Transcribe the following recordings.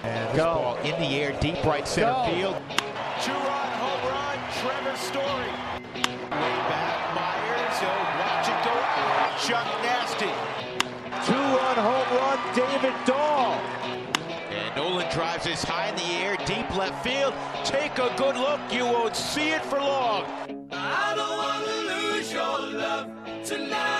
And this ball in the air, deep right center field. Two-run home run, Trevor Story. Way back, Myers, he'll watch it go out. Chuck Nasty. Two-run home run, David Dahl. And Nolan drives this high in the air, deep left field. Take a good look, you won't see it for long. I don't want to lose your love tonight.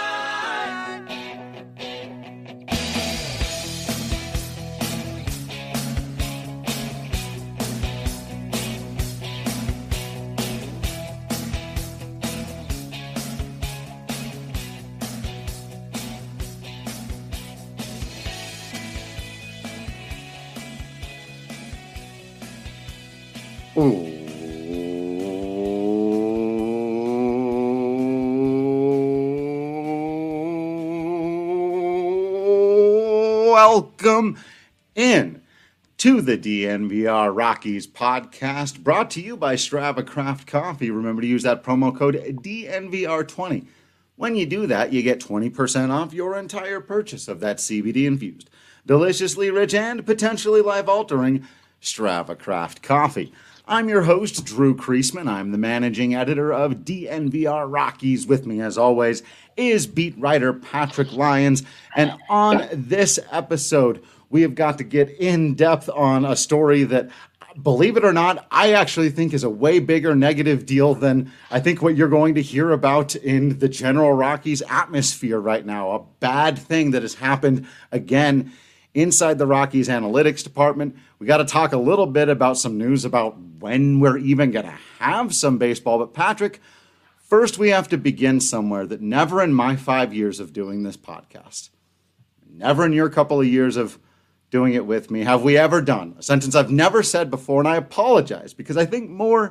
Welcome in to the DNVR Rockies podcast, brought to you by Strava Craft Coffee. Remember to use that promo code DNVR20. When you do that, you get 20% off your entire purchase of that CBD-infused, deliciously rich, and potentially life-altering Strava Craft Coffee. I'm your host, Drew Creasman. I'm the managing editor of DNVR Rockies. With me, as always, is beat writer Patrick Lyons. And on this episode, we have got to get in depth on a story that, believe it or not, I actually think is a way bigger negative deal than I think what you're going to hear about in the general Rockies atmosphere right now. A bad thing that has happened again inside the Rockies analytics department. We got to talk a little bit about some news about when we're even going to have some baseball. But Patrick, first we have to begin somewhere that never in my 5 years of doing this podcast, never in your couple of years of doing it with me, have we ever done a sentence I've never said before, and I apologize because I think more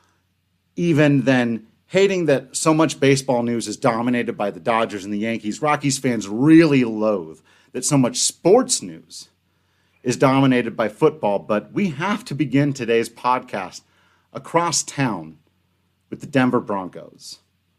even than hating that so much baseball news is dominated by the Dodgers and the Yankees, Rockies fans really loathe that so much sports news is dominated by football. But we have to begin today's podcast across town with the Denver Broncos.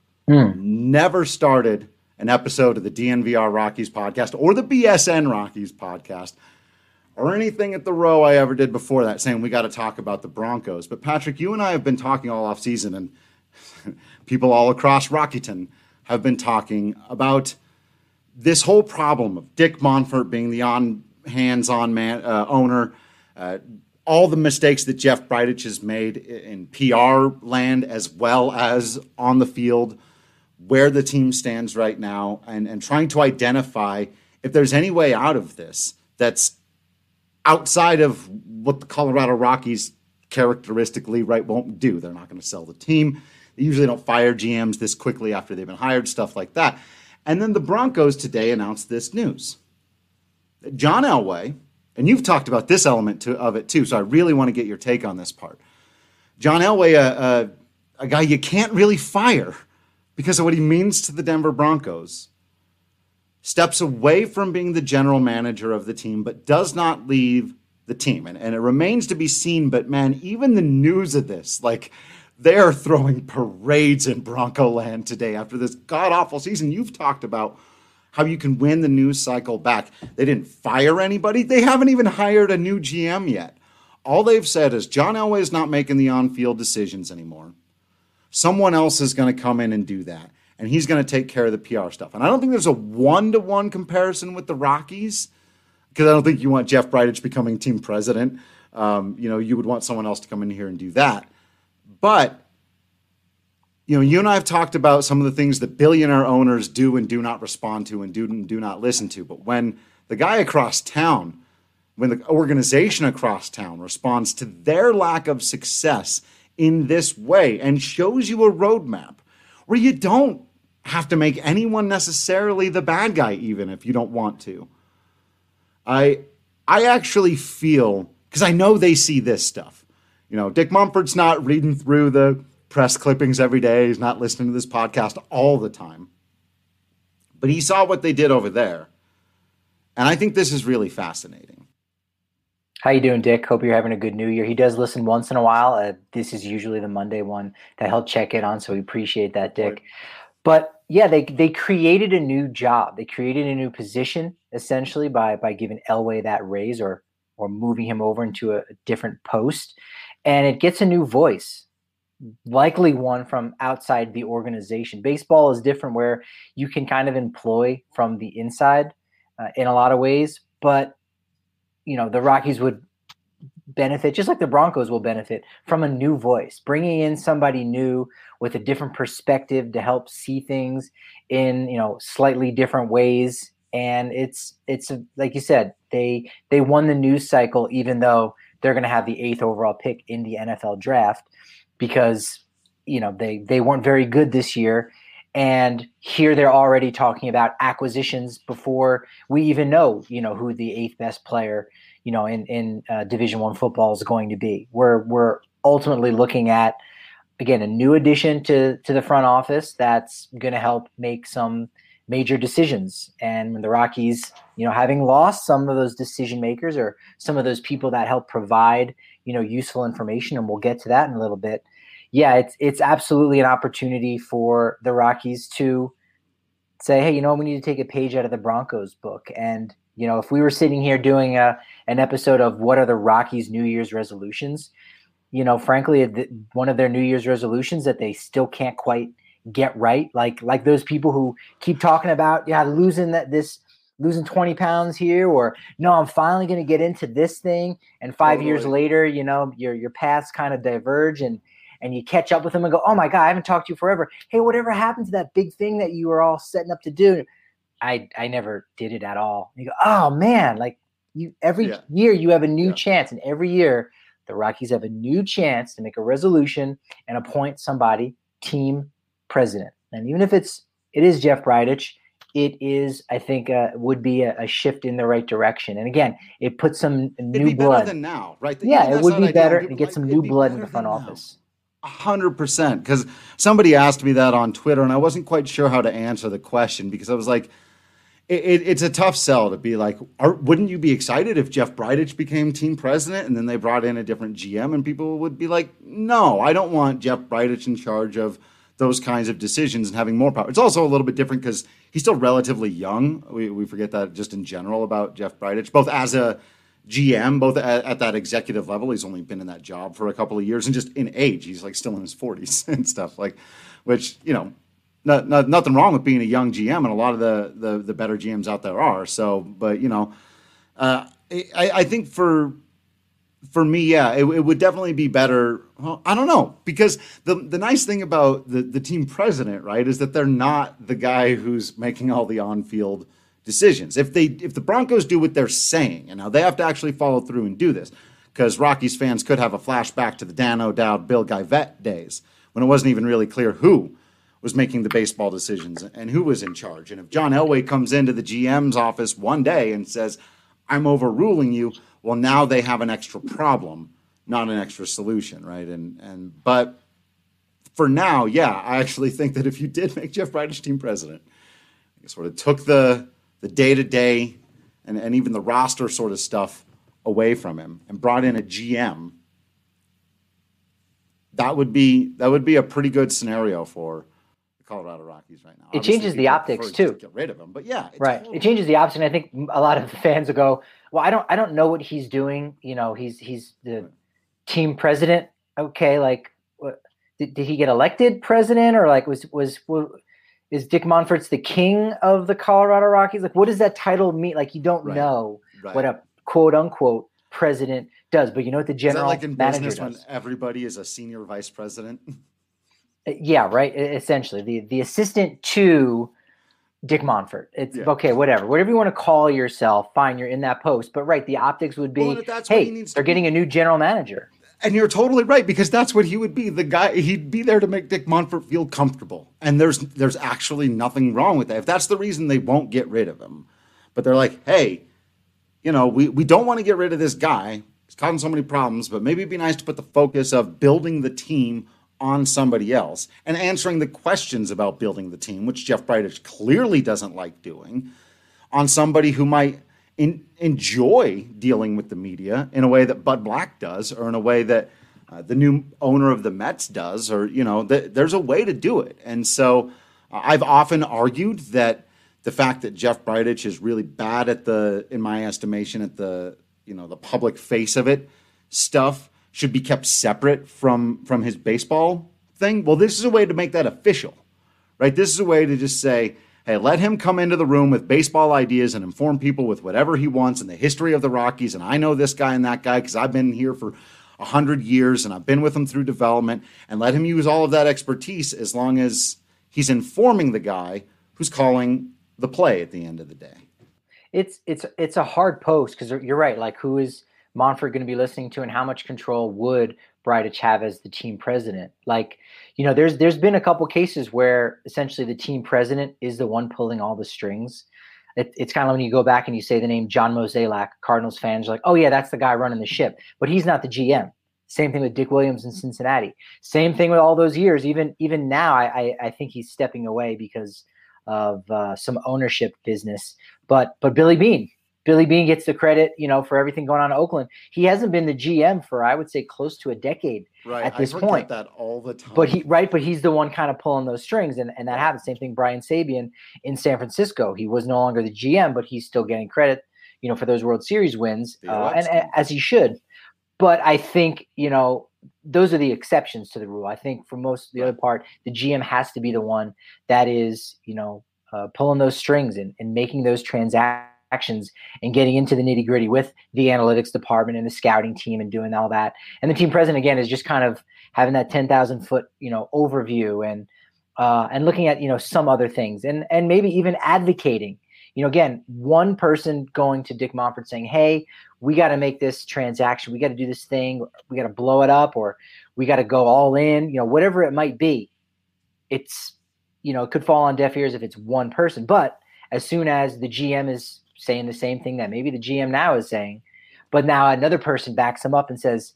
Never started an episode of the DNVR Rockies podcast or the BSN Rockies podcast or anything at the row I ever did before that saying we got to talk about the Broncos. But Patrick, you and I have been talking all off season, and people all across Rockyton have been talking about this whole problem of Dick Monfort being the hands-on owner, all the mistakes that Jeff Bridich has made in PR land as well as on the field, where the team stands right now, and trying to identify if there's any way out of this that's outside of what the Colorado Rockies characteristically won't do. They're not going to sell the team. They usually don't fire GMs this quickly after they've been hired, stuff like that. And then the Broncos today announced this news. John Elway, and you've talked about this element of it too, so I really want to get your take on this part. John Elway, a guy you can't really fire because of what he means to the Denver Broncos, steps away from being the general manager of the team, but does not leave the team. And it remains to be seen, but man, even the news of this, they are throwing parades in Bronco land today after this god-awful season. You've talked about how you can win the news cycle back. They didn't fire anybody. They haven't even hired a new GM yet. All they've said is John Elway is not making the on-field decisions anymore. Someone else is going to come in and do that, and he's going to take care of the PR stuff. And I don't think there's a one-to-one comparison with the Rockies, because I don't think you want Jeff Bridich becoming team president. You would want someone else to come in here and do that. But, you and I have talked about some of the things that billionaire owners do and do not respond to and do not listen to. But when the guy across town, when the organization across town responds to their lack of success in this way and shows you a roadmap where you don't have to make anyone necessarily the bad guy, even if you don't want to, I actually feel, because I know they see this stuff. Dick Monfort's not reading through the press clippings every day. He's not listening to this podcast all the time. But he saw what they did over there. And I think this is really fascinating. How you doing, Dick? Hope you're having a good New Year. He does listen once in a while. This is usually the Monday one that he'll check in on, so we appreciate that, Dick. Right. But yeah, they created a new job. They created a new position, essentially, by giving Elway that raise or or moving him over into a different post, and it gets a new voice, likely one from outside the organization. Baseball is different where you can kind of employ from the inside in a lot of ways, but the Rockies would benefit, just like the Broncos will benefit, from a new voice, bringing in somebody new with a different perspective to help see things in slightly different ways. And it's like you said, they won the news cycle, even though they're going to have the 8th overall pick in the NFL draft, because they weren't very good this year. And here they're already talking about acquisitions before we even know who the 8th best player in Division I football is going to be. We're ultimately looking at, again, a new addition to the front office that's going to help make some major decisions. And when the Rockies, having lost some of those decision makers or some of those people that help provide, useful information, and we'll get to that in a little bit. Yeah, it's absolutely an opportunity for the Rockies to say, hey, we need to take a page out of the Broncos book. And, if we were sitting here doing an episode of what are the Rockies' New Year's resolutions, frankly, one of their New Year's resolutions that they still can't quite get right, like those people who keep talking about, losing 20 pounds here, or no, I'm finally going to get into this thing. And 5 years later, your paths kind of diverge and you catch up with them and go, oh my God, I haven't talked to you forever. Hey, whatever happened to that big thing that you were all setting up to do? I never did it at all. And you go, oh man, every year you have a new chance. And every year the Rockies have a new chance to make a resolution and appoint somebody team president. And even if it is Jeff Bridich, it is, I think, would be a shift in the right direction. And again, it puts some new blood. Better than now, right? It would be better to get some new blood in the front office. 100%. Because somebody asked me that on Twitter, and I wasn't quite sure how to answer the question, because I was like, it's a tough sell to be like, wouldn't you be excited if Jeff Bridich became team president and then they brought in a different GM? And people would be like, no, I don't want Jeff Bridich in charge of those kinds of decisions and having more power. It's also a little bit different because he's still relatively young. We forget that just in general about Jeff Bridich, both as a GM, both at that executive level. He's only been in that job for a couple of years, and just in age, he's still in his 40s and stuff, which, nothing wrong with being a young GM, and a lot of the better GMs out there are. So, but, I think for me, it would definitely be better. Well, I don't know, because the nice thing about the team president, right, is that they're not the guy who's making all the on-field decisions. If the Broncos do what they're saying, and now they have to actually follow through and do this, because Rockies fans could have a flashback to the Dan O'Dowd, Bill Geivett days when it wasn't even really clear who was making the baseball decisions and who was in charge. And if John Elway comes into the GM's office one day and says, I'm overruling you, well, now they have an extra problem, not an extra solution, right? But for now, I actually think that if you did make Jeff Bridich team president, you sort of took the day-to-day and even the roster sort of stuff away from him and brought in a GM, that would be a pretty good scenario for the Colorado Rockies right now. It changes the optics too. Get rid of him, but right. Totally. It changes the optics, and I think a lot of the fans will go, well, I don't know what he's doing. He's the team president. Okay, what, did he get elected president, or is Dick Monfort's the king of the Colorado Rockies? What does that title mean? You don't know what a quote unquote president does, but you know what the general manager does. Is that like in business when everybody is a senior vice president? Yeah, right. Essentially, the assistant to Dick Monfort. It's okay, whatever you want to call yourself. Fine, you're in that post. But the optics would be, hey, they're getting a new general manager. And you're totally right, because that's what he would be. The guy, he'd be there to make Dick Monfort feel comfortable. And there's actually nothing wrong with that. If that's the reason they won't get rid of him, but they're like, hey, we don't want to get rid of this guy. He's causing so many problems, but maybe it'd be nice to put the focus of building the team on somebody else and answering the questions about building the team, which Jeff Bridich clearly doesn't like doing, on somebody who might enjoy dealing with the media in a way that Bud Black does, or in a way that the new owner of the Mets does, or, there's a way to do it. And so I've often argued that the fact that Jeff Bridich is really bad in my estimation, at the the public face of it stuff should be kept separate from his baseball thing. Well, this is a way to make that official, right? This is a way to just say, hey, let him come into the room with baseball ideas and inform people with whatever he wants in the history of the Rockies. And I know this guy and that guy because I've been here for 100 years and I've been with him through development, and let him use all of that expertise as long as he's informing the guy who's calling the play at the end of the day. It's a hard post because you're right. Like, who is Monfort going to be listening to, and how much control would Bridich have as the team president? Like, there's been a couple cases where essentially the team president is the one pulling all the strings. It's kind of when you go back and you say the name John Mozeliak, Cardinals fans are like, oh yeah, that's the guy running the ship, but he's not the GM. Same thing with Dick Williams in Cincinnati. Same thing with all those years. Even now, I think he's stepping away because of some ownership business. But Billy Beane gets the credit, for everything going on in Oakland. He hasn't been the GM for, I would say, close to a decade at this point. I forget that all the time. But he's the one kind of pulling those strings, and that happens. Same thing, Brian Sabean in San Francisco. He was no longer the GM, but he's still getting credit, for those World Series wins, and as he should. But I think, those are the exceptions to the rule. I think for most of the other part, the GM has to be the one that is, pulling those strings and making those transactions and getting into the nitty gritty with the analytics department and the scouting team and doing all that. And the team president, again, is just kind of having that 10,000 foot, overview and looking at, some other things and maybe even advocating. Again, one person going to Dick Monfort saying, hey, we got to make this transaction. We got to do this thing. We got to blow it up, or we got to go all in, whatever it might be. It's, it could fall on deaf ears if it's one person. But as soon as the GM is saying the same thing that maybe the GM now is saying, but now another person backs him up and says,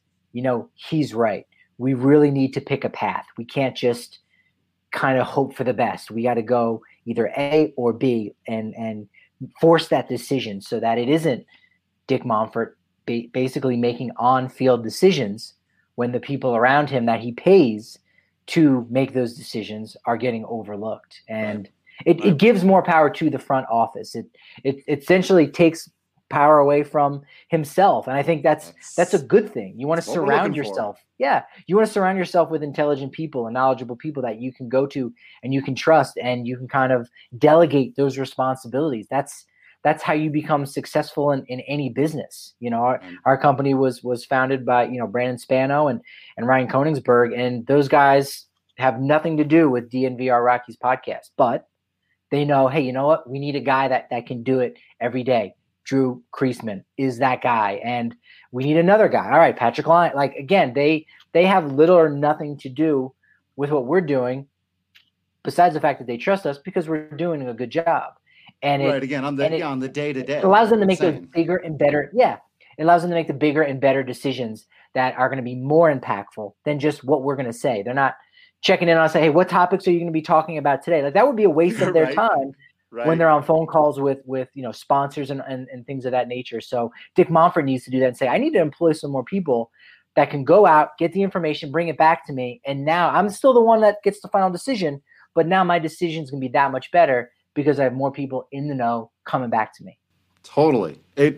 he's right. We really need to pick a path. We can't just kind of hope for the best. We got to go either A or B and force that decision so that it isn't Dick Monfort basically making on-field decisions when the people around him that he pays to make those decisions are getting overlooked. And it gives more power to the front office. It essentially takes power away from himself. And I think that's a good thing. You want to surround yourself. Yeah. You want to surround yourself with intelligent people and knowledgeable people that you can go to and you can trust, and you can kind of delegate those responsibilities. That's how you become successful in any business. Our company was founded by, Brandon Spano and Ryan Koenigsberg, and those guys have nothing to do with DNVR Rockies podcast, but they know, hey, you know what? We need a guy that can do it every day. Drew Kreisman is that guy, and we need another guy. All right, Patrick Lyon. Like, again, they have little or nothing to do with what we're doing, besides the fact that they trust us because we're doing a good job. And on the day-to-day. It allows them to make those bigger and better. Yeah, it allows them to make the bigger and better decisions that are going to be more impactful than just what we're going to say. They're not checking in on us, say, hey, what topics are you going to be talking about today? Like, that would be a waste of their time. Right. When they're on phone calls with sponsors and things of that nature. So Dick Monfort needs to do that and say, I need to employ some more people that can go out, get the information, bring it back to me. And now I'm still the one that gets the final decision, but now my decision is going to be that much better because I have more people in the know coming back to me. Totally.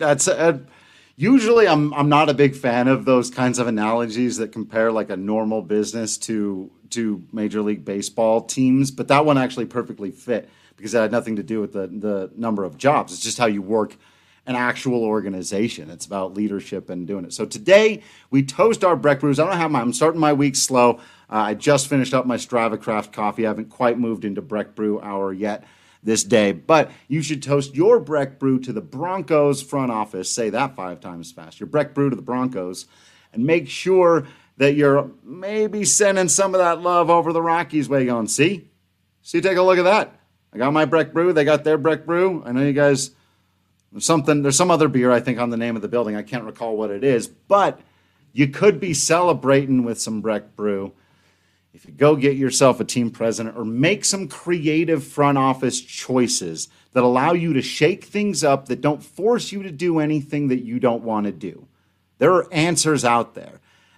Usually I'm not a big fan of those kinds of analogies that compare like a normal business to Major League Baseball teams, but that one actually perfectly fit, because it had nothing to do with the number of jobs. It's just how you work an actual organization. It's about leadership and doing it. So today we toast our Breck brews. I'm starting my week slow. I just finished up my Strava Craft coffee. I haven't quite moved into Breck Brew Hour yet this day, but you should toast your Breck brew to the Broncos front office. Say that 5 times fast. Your Breck brew to the Broncos, and make sure that you're maybe sending some of that love over the Rockies way. Going, see, take a look at that. I got my Breck brew. They got their Breck brew. I know you guys, there's some other beer, I think, on the name of the building. I can't recall what it is, but you could be celebrating with some Breck brew if you go get yourself a team president or make some creative front office choices that allow you to shake things up, that don't force you to do anything that you don't want to do. There are answers out there.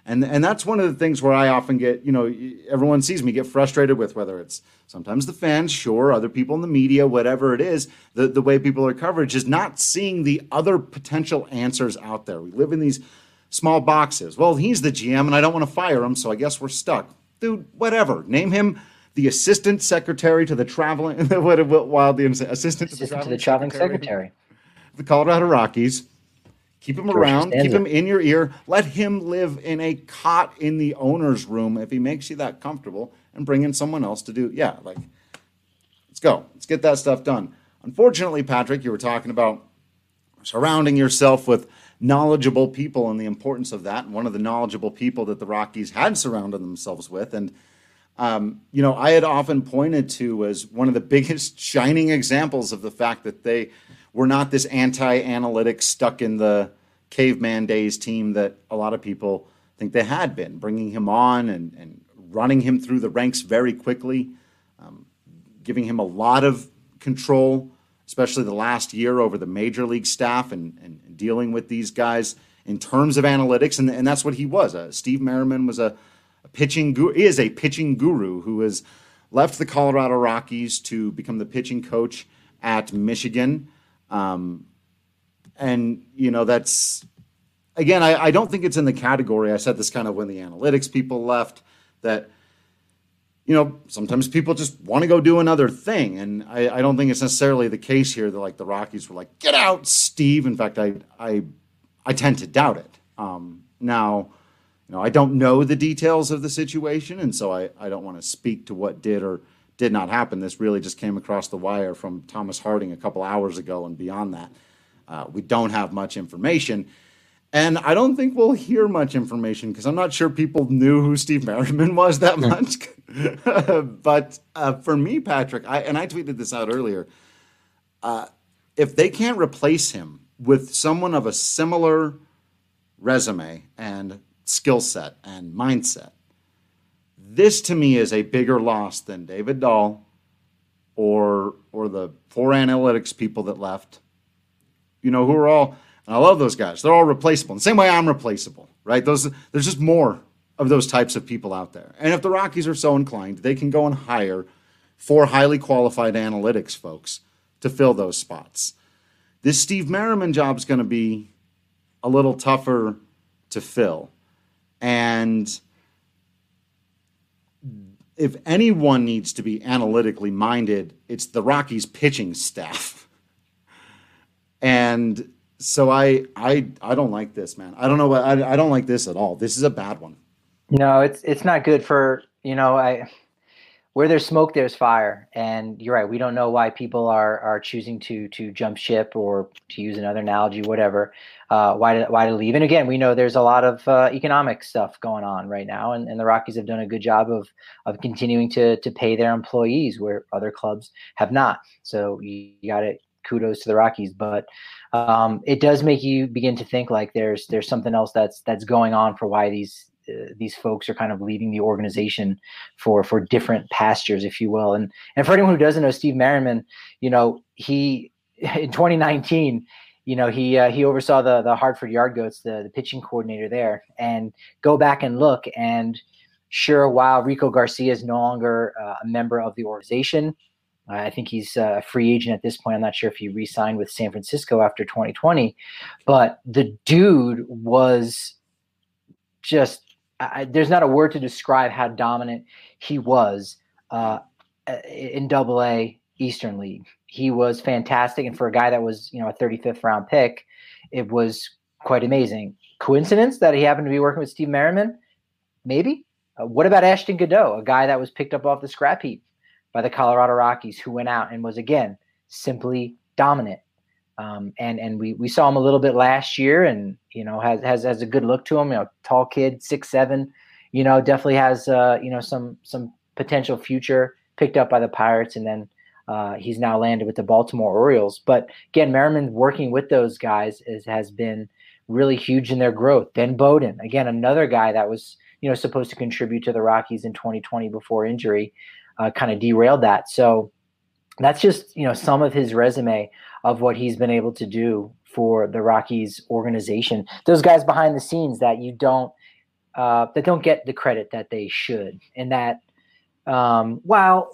And that's one of the things where I often get, everyone sees me get frustrated with, whether it's sometimes the fans, sure, other people in the media, whatever it is, the way people are coverage is not seeing the other potential answers out there. We live in these small boxes. Well, he's the GM and I don't want to fire him, so I guess we're stuck. Dude, whatever. Name him the assistant secretary to the traveling, assistant to the traveling secretary. The Colorado Rockies. Keep him around, keep him in your ear, let him live in a cot in the owner's room if he makes you that comfortable, and bring in someone else to do, let's go. Let's get that stuff done. Unfortunately, Patrick, you were talking about surrounding yourself with knowledgeable people and the importance of that, and one of the knowledgeable people that the Rockies had surrounded themselves with, and I had often pointed to as one of the biggest shining examples of the fact that they were not this anti-analytics stuck in the caveman days team that a lot of people think they had been, bringing him on and running him through the ranks very quickly, giving him a lot of control, especially the last year over the major league staff and dealing with these guys in terms of analytics. And that's what he was. Steve Merriman was a pitching guru who has left the Colorado Rockies to become the pitching coach at Michigan. That's, again, I don't think it's in the category. I said this kind of when the analytics people left that, sometimes people just want to go do another thing. And I don't think it's necessarily the case here that the Rockies were like, get out, Steve. In fact, I tend to doubt it. Now, I don't know the details of the situation. And so I don't want to speak to what did or did not happen. This really just came across the wire from Thomas Harding a couple hours ago, and beyond that, we don't have much information. And I don't think we'll hear much information because I'm not sure people knew who Steve Merriman was that much. But for me, Patrick, I tweeted this out earlier, if they can't replace him with someone of a similar resume and skill set and mindset, this to me is a bigger loss than David Dahl or the 4 analytics people that left, who are all, and I love those guys. They're all replaceable. In the same way I'm replaceable, right? There's just more of those types of people out there. And if the Rockies are so inclined, they can go and hire 4 highly qualified analytics folks to fill those spots. This Steve Merriman job is going to be a little tougher to fill. And if anyone needs to be analytically minded, it's the Rockies pitching staff. And so I don't like this, man. I don't know what I don't like this at all. This is a bad one. No, it's not good for, where there's smoke, there's fire. And you're right. We don't know why people are choosing to jump ship, or to use another analogy, whatever, why to leave. And again, we know there's a lot of economic stuff going on right now. And the Rockies have done a good job of continuing to pay their employees where other clubs have not. So you got it. Kudos to the Rockies. But it does make you begin to think like there's something else that's going on for why these folks are kind of leaving the organization for different pastures, if you will. And for anyone who doesn't know Steve Merriman, he in 2019, he oversaw the Hartford Yard Goats, the pitching coordinator there, and go back and look. And sure, while Rico Garcia is no longer a member of the organization, I think he's a free agent at this point. I'm not sure if he re-signed with San Francisco after 2020, but the dude was just, there's not a word to describe how dominant he was in AA Eastern League. He was fantastic. And for a guy that was, a 35th round pick, it was quite amazing. Coincidence that he happened to be working with Steve Merriman? Maybe. What about Ashton Godot, a guy that was picked up off the scrap heap by the Colorado Rockies, who went out and was, again, simply dominant. And we saw him a little bit last year, and has a good look to him. Tall kid, 6'7", definitely has some potential future. Picked up by the Pirates, and then he's now landed with the Baltimore Orioles. But again, Merriman working with those guys has been really huge in their growth. Ben Bowden, again, another guy that was supposed to contribute to the Rockies in 2020 before injury, kind of derailed that. So that's just some of his resume of what he's been able to do for the Rockies organization. Those guys behind the scenes that you don't that don't get the credit that they should. And that while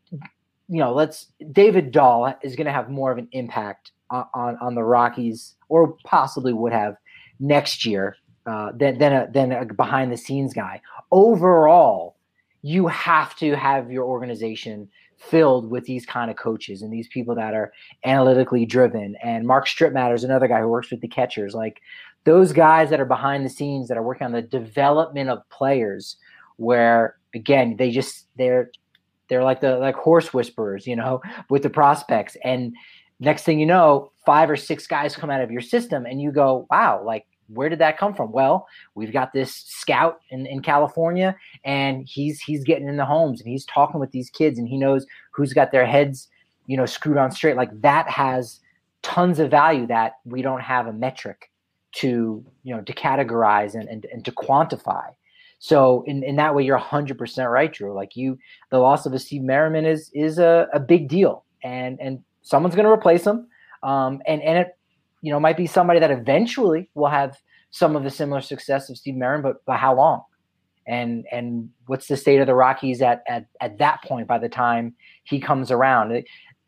David Dahl is going to have more of an impact on the Rockies, or possibly would have next year than a behind the scenes guy. Overall, you have to have your organization filled with these kind of coaches and these people that are analytically driven. And Mark Strittmatter is another guy who works with the catchers. Like those guys that are behind the scenes that are working on the development of players, where again they're like horse whisperers, with the prospects. And next thing you know, 5 or 6 guys come out of your system, and you go, wow, like where did that come from? Well, we've got this scout in California, and he's getting in the homes and he's talking with these kids, and he knows who's got their heads, screwed on straight. Like that has tons of value that we don't have a metric to categorize and to quantify. So in that way, you're 100% right, Drew. Like the loss of a Steve Merriman is a big deal, and someone's going to replace him. And it, might be somebody that eventually will have some of the similar success of Steve Merriman, but by how long? And what's the state of the Rockies at that point by the time he comes around?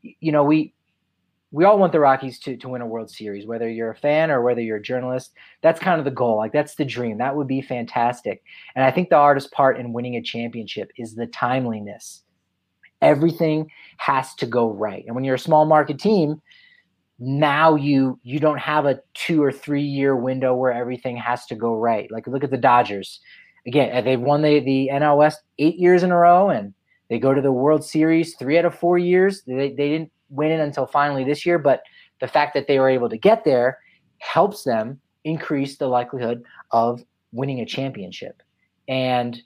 We all want the Rockies to win a World Series, whether you're a fan or whether you're a journalist. That's kind of the goal. Like that's the dream. That would be fantastic. And I think the hardest part in winning a championship is the timeliness. Everything has to go right. And when you're a small market team, now you don't have a 2 or 3 year window where everything has to go right. Like look at the Dodgers. Again, they've won the NL West 8 years in a row, and they go to the World Series 3 out of 4 years. They didn't win it until finally this year, but the fact that they were able to get there helps them increase the likelihood of winning a championship. And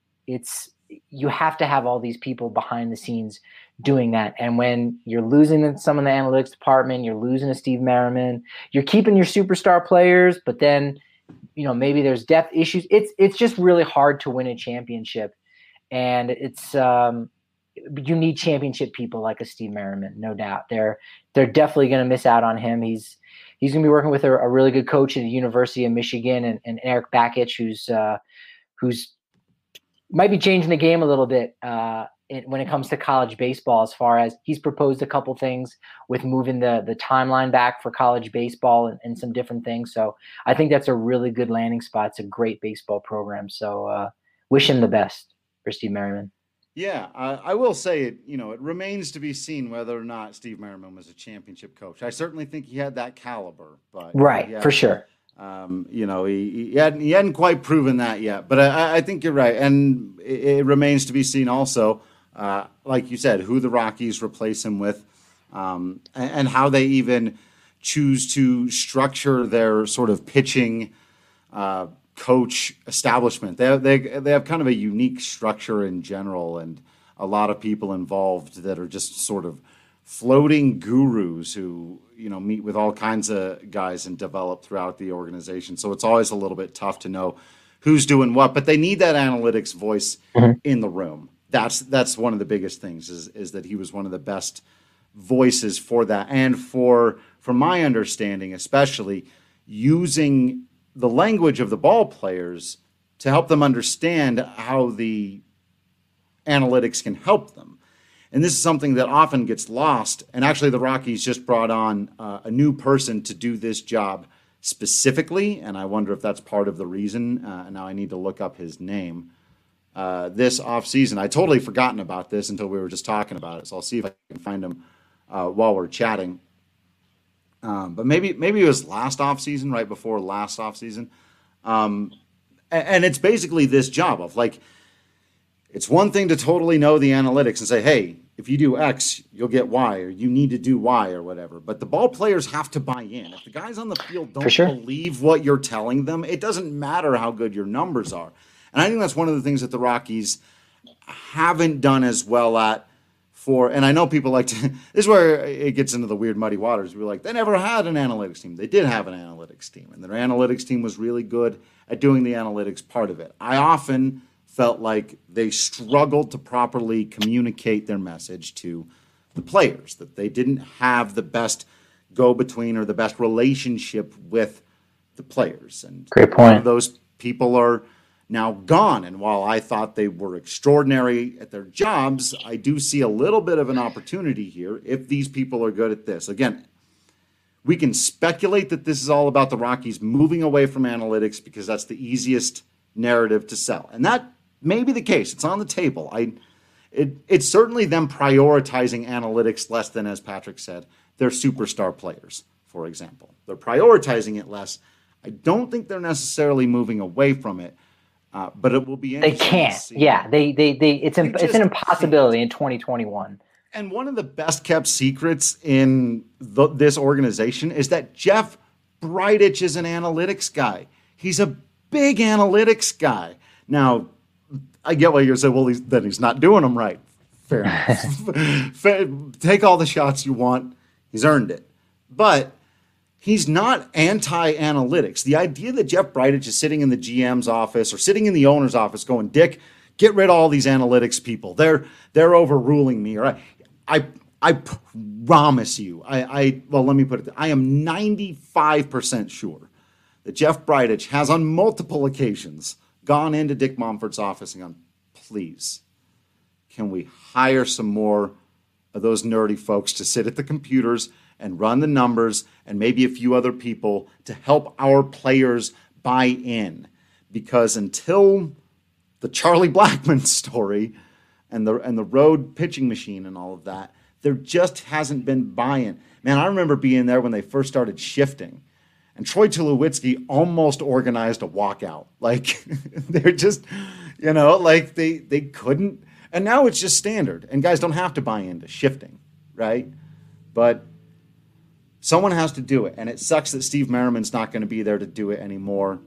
you have to have all these people behind the scenes doing that. And when you're losing some in the analytics department, you're losing a Steve Merriman, you're keeping your superstar players, but then, maybe there's depth issues. It's just really hard to win a championship. And it's, you need championship people like a Steve Merriman, no doubt. They're definitely going to miss out on him. He's going to be working with a really good coach at the University of Michigan, and Eric Bakich, who's might be changing the game a little bit when it comes to college baseball, as far as he's proposed a couple things with moving the timeline back for college baseball and some different things. So I think that's a really good landing spot. It's a great baseball program. So wish him the best for Steve Merriman. Yeah, I will say it. It remains to be seen whether or not Steve Merriman was a championship coach. I certainly think he had that caliber, but right, for sure. He hadn't quite proven that yet. But I think you're right, and it remains to be seen also, like you said, who the Rockies replace him with, and how they even choose to structure their sort of pitching coach establishment. They have kind of a unique structure in general, and a lot of people involved that are just sort of floating gurus who meet with all kinds of guys and develop throughout the organization. So it's always a little bit tough to know who's doing what, but they need that analytics voice in the room. That's one of the biggest things is that he was one of the best voices for that, and from my understanding, especially using the language of the ball players to help them understand how the analytics can help them. And this is something that often gets lost. And actually, the Rockies just brought on a new person to do this job specifically. And I wonder if that's part of the reason. Now I need to look up his name. This offseason, I totally forgotten about this until we were just talking about it. So I'll see if I can find him while we're chatting. But maybe it was last offseason, right before last offseason. And it's basically this job of like, it's one thing to totally know the analytics and say, hey, if you do X, you'll get Y, or you need to do Y or whatever. But the ball players have to buy in. If the guys on the field don't believe what you're telling them, it doesn't matter how good your numbers are. And I think that's one of the things that the Rockies haven't done as well at and I know people like to, this is where it gets into the weird muddy waters. We're like, they never had an analytics team. They did have an analytics team, and their analytics team was really good at doing the analytics part of it. I often felt like they struggled to properly communicate their message to the players, that they didn't have the best go-between or the best relationship with the players. And great point. Those people are now gone. And while I thought they were extraordinary at their jobs, I do see a little bit of an opportunity here if these people are good at this. Again, we can speculate that this is all about the Rockies moving away from analytics because that's the easiest narrative to sell. And that may be the case. It's on the table. It's certainly them prioritizing analytics less than, as Patrick said, their superstar players, for example. They're prioritizing it less. I don't think they're necessarily moving away from it, but it will be interesting. They can't. Yeah, it's an impossibility in 2021. And one of the best kept secrets in this organization is that Jeff Bridich is an analytics guy. He's a big analytics guy. Now, I get what you're saying. Well, then he's not doing them right. Fair enough. Take all the shots you want. He's earned it. But he's not anti-analytics. The idea that Jeff Bridich is sitting in the GM's office or sitting in the owner's office going, Dick, get rid of all these analytics people. They're overruling me. Or I promise you. Well, let me put it. I am 95% sure that Jeff Bridich has on multiple occasions gone into Dick Monfort's office and gone, please, can we hire some more of those nerdy folks to sit at the computers and run the numbers and maybe a few other people to help our players buy in? Because until the Charlie Blackmon story and the road pitching machine and all of that, there just hasn't been buy-in. Man, I remember being there when they first started shifting. And Troy Tulowitzki almost organized a walkout. Like, they're just, like they couldn't. And now it's just standard. And guys don't have to buy into shifting, right? But someone has to do it. And it sucks that Steve Merriman's not going to be there to do it anymore.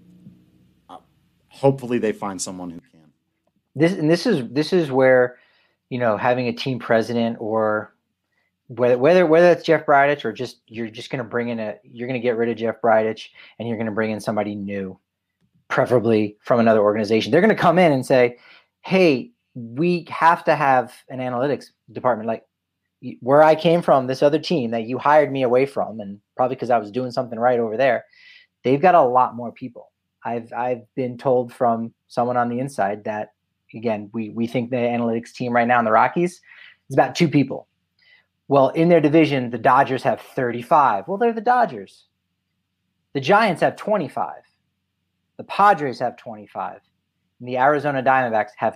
Hopefully they find someone who can. This is where, having a team president or whether it's Jeff Bridich or just you're just going to bring in you're going to get rid of Jeff Bridich and you're going to bring in somebody new, preferably from another organization. They're going to come in and say, hey, we have to have an analytics department. Like where I came from, this other team that you hired me away from, and probably because I was doing something right over there, they've got a lot more people. I've been told from someone on the inside that, again, we think the analytics team right now in the Rockies is about 2 people. Well, in their division, the Dodgers have 35. Well, they're the Dodgers. The Giants have 25. The Padres have 25. And the Arizona Diamondbacks have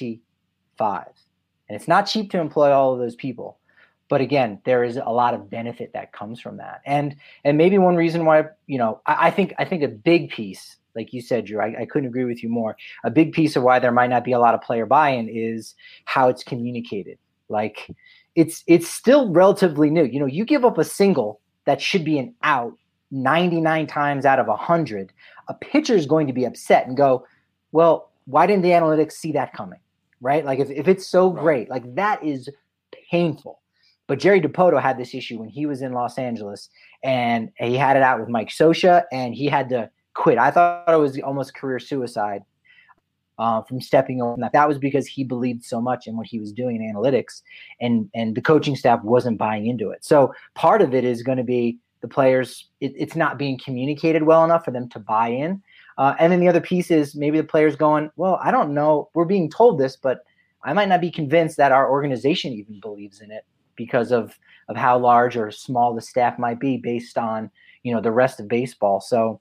25. And it's not cheap to employ all of those people. But again, there is a lot of benefit that comes from that. And maybe one reason why, I think a big piece, like you said, Drew, I couldn't agree with you more. A big piece of why there might not be a lot of player buy-in is how it's communicated. Like it's still relatively new. You give up a single that should be an out 99 times out of 100. A pitcher is going to be upset and go, well, why didn't the analytics see that coming? Right? Like if it's so great, like that is painful. But Jerry Dipoto had this issue when he was in Los Angeles, and he had it out with Mike Scioscia, and he had to quit. I thought it was almost career suicide from stepping on that. That was because he believed so much in what he was doing in analytics, and the coaching staff wasn't buying into it. So part of it is going to be the players. It's not being communicated well enough for them to buy in. And then the other piece is maybe the players going, well, I don't know. We're being told this, but I might not be convinced that our organization even believes in it because of how large or small the staff might be based on, the rest of baseball. So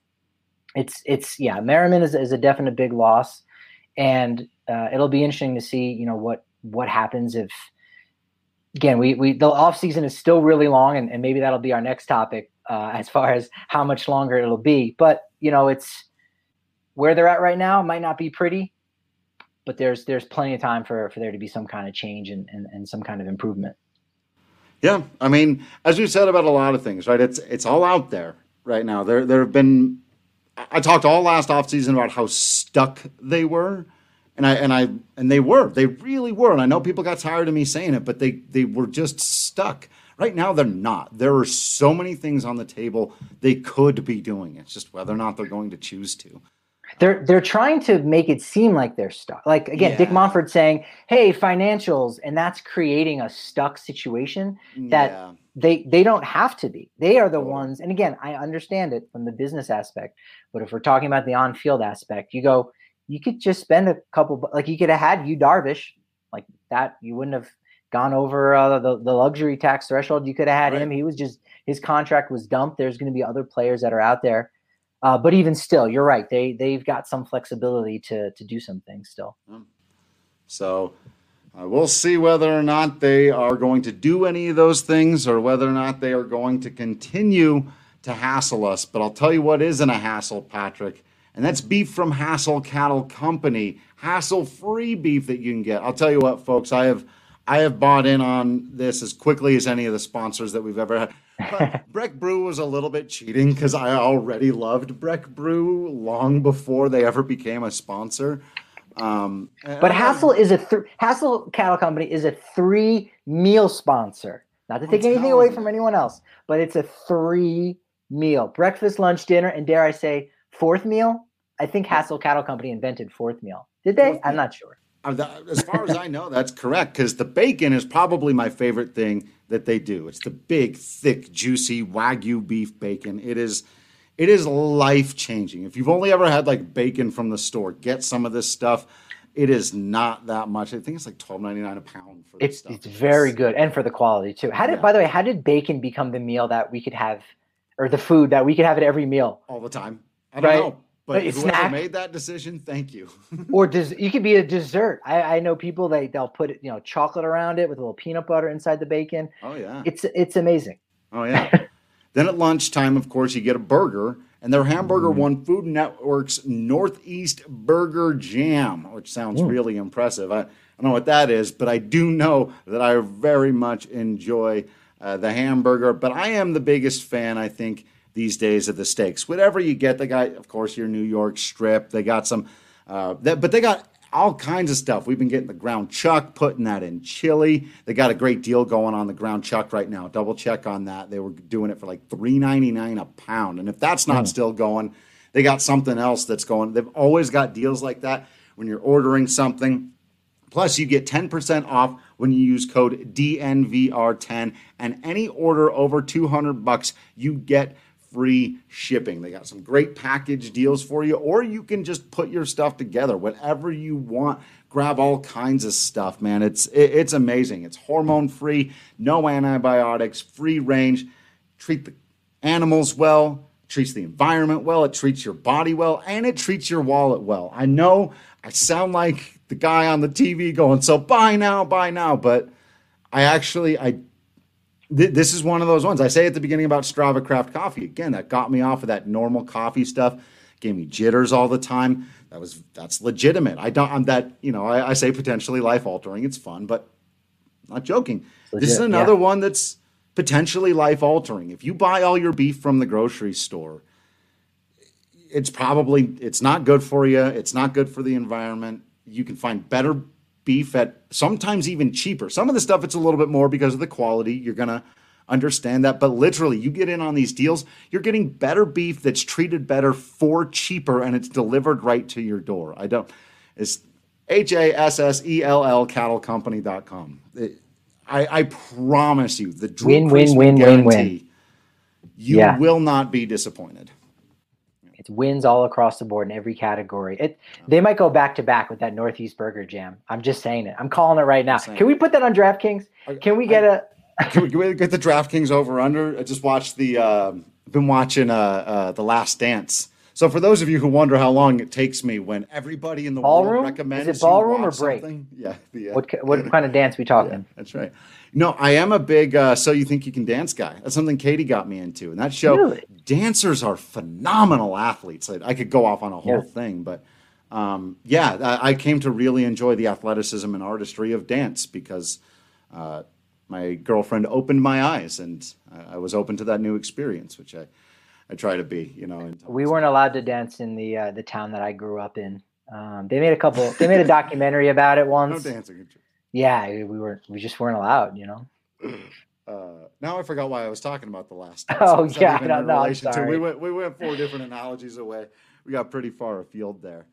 it's Merriman is a definite big loss. And it'll be interesting to see, what happens if, again, the off season is still really long, and maybe that'll be our next topic as far as how much longer it'll be. But it's where they're at right now. It might not be pretty, but there's plenty of time for there to be some kind of change and some kind of improvement. Yeah, I mean, as we said about a lot of things, right? It's all out there right now. There have been. I talked all last offseason about how stuck they were, and they really were. And I know people got tired of me saying it, but they were just stuck. Right now, they're not. There are so many things on the table they could be doing. It's just whether or not they're going to choose to. They're trying to make it seem like they're stuck. Like, again, Dick Monfort saying, hey, financials, and that's creating a stuck situation that they don't have to be. They are the ones, and again, I understand it from the business aspect, but if we're talking about the on-field aspect, you go, you could just spend a couple, like you could have had Yu Darvish like that. You wouldn't have gone over the luxury tax threshold. You could have had him. He was just, his contract was dumped. There's going to be other players that are out there. But even still, you're right. They've got some flexibility to do some things still. So we'll see whether or not they are going to do any of those things or whether or not they are going to continue to hassle us. But I'll tell you what isn't a hassle, Patrick, and that's beef from Hassel Cattle Company. Hassle-free beef that you can get. I'll tell you what, folks, I have bought in on this as quickly as any of the sponsors that we've ever had. But Breck Brew was a little bit cheating because I already loved Breck Brew long before they ever became a sponsor. But Hassel is Hassel Cattle Company is a 3-meal sponsor. Not to take anything away from anyone else, but it's a 3-meal: breakfast, lunch, dinner, and dare I say, 4th meal. I think Hassel Cattle Company invented 4th meal. Did they? I'm not sure. As far as I know, that's correct, because the bacon is probably my favorite thing that they do. It's the big, thick, juicy Wagyu beef bacon. It is life-changing. If you've only ever had like bacon from the store, get some of this stuff. It is not that much. I think it's like $12.99 a pound for this stuff. It's very good, and for the quality too. By the way, how did bacon become the meal that we could have, or the food that we could have at every meal all the time? I don't know. But whoever made that decision, thank you. Or you could be a dessert. I know people they'll put chocolate around it with a little peanut butter inside the bacon. Oh yeah, it's amazing. Oh yeah. Then at lunchtime, of course, you get a burger, and their hamburger won Food Network's Northeast Burger Jam, which sounds really impressive. I don't know what that is, but I do know that I very much enjoy the hamburger. But I am the biggest fan, I think, these days of the steaks. Whatever you get, they got, of course, your New York strip. They got some, but they got all kinds of stuff. We've been getting the ground chuck, putting that in chili. They got a great deal going on the ground chuck right now. Double check on that. They were doing it for like $3.99 a pound. And if that's not still going, they got something else that's going. They've always got deals like that when you're ordering something. Plus, you get 10% off when you use code DNVR10. And any order over $200, you get free shipping. They got some great package deals for you, or you can just put your stuff together, whatever you want. Grab all kinds of stuff, man. It's amazing. It's hormone free, no antibiotics, free range. Treat the animals well, treats the environment well, it treats your body well, and it treats your wallet well. I know I sound like the guy on the TV going, so buy now, but this is one of those ones. I say at the beginning about Strava Craft Coffee. Again, that got me off of that normal coffee stuff. Gave me jitters all the time. That's legitimate. I say potentially life altering. It's fun, but I'm not joking. Legit, this is another one that's potentially life altering. If you buy all your beef from the grocery store, it's not good for you. It's not good for the environment. You can find better beef at sometimes even cheaper. Some of the stuff it's a little bit more because of the quality. You're going to understand that. But literally, you get in on these deals, you're getting better beef that's treated better for cheaper, and it's delivered right to your door. It's HASSELL cattlecompany.com. I promise you, the Drew Crispin guarantee, you will not be disappointed. It's wins all across the board in every category. They might go back to back with that Northeast Burger Jam. I'm just saying it. I'm calling it right now. Can we put that on DraftKings? Can we get Can we get the DraftKings over under? I just watched been watching The Last Dance. So for those of you who wonder how long it takes me when everybody in the world recommends is it ballroom or break? Something, yeah. What kind of dance we talking? Yeah, that's right. No, I am a big So You Think You Can Dance guy. That's something Katie got me into. And that show, dancers are phenomenal athletes. I could go off on a whole thing, but I came to really enjoy the athleticism and artistry of dance because my girlfriend opened my eyes, and I was open to that new experience, which I try to be. We weren't allowed to dance in the town that I grew up in. They made a documentary about it once. No dancing. Yeah, we just weren't allowed, Now I forgot why I was talking about The Last Dance. Oh yeah, I'm sorry. We went 4 different analogies away. We got pretty far afield there.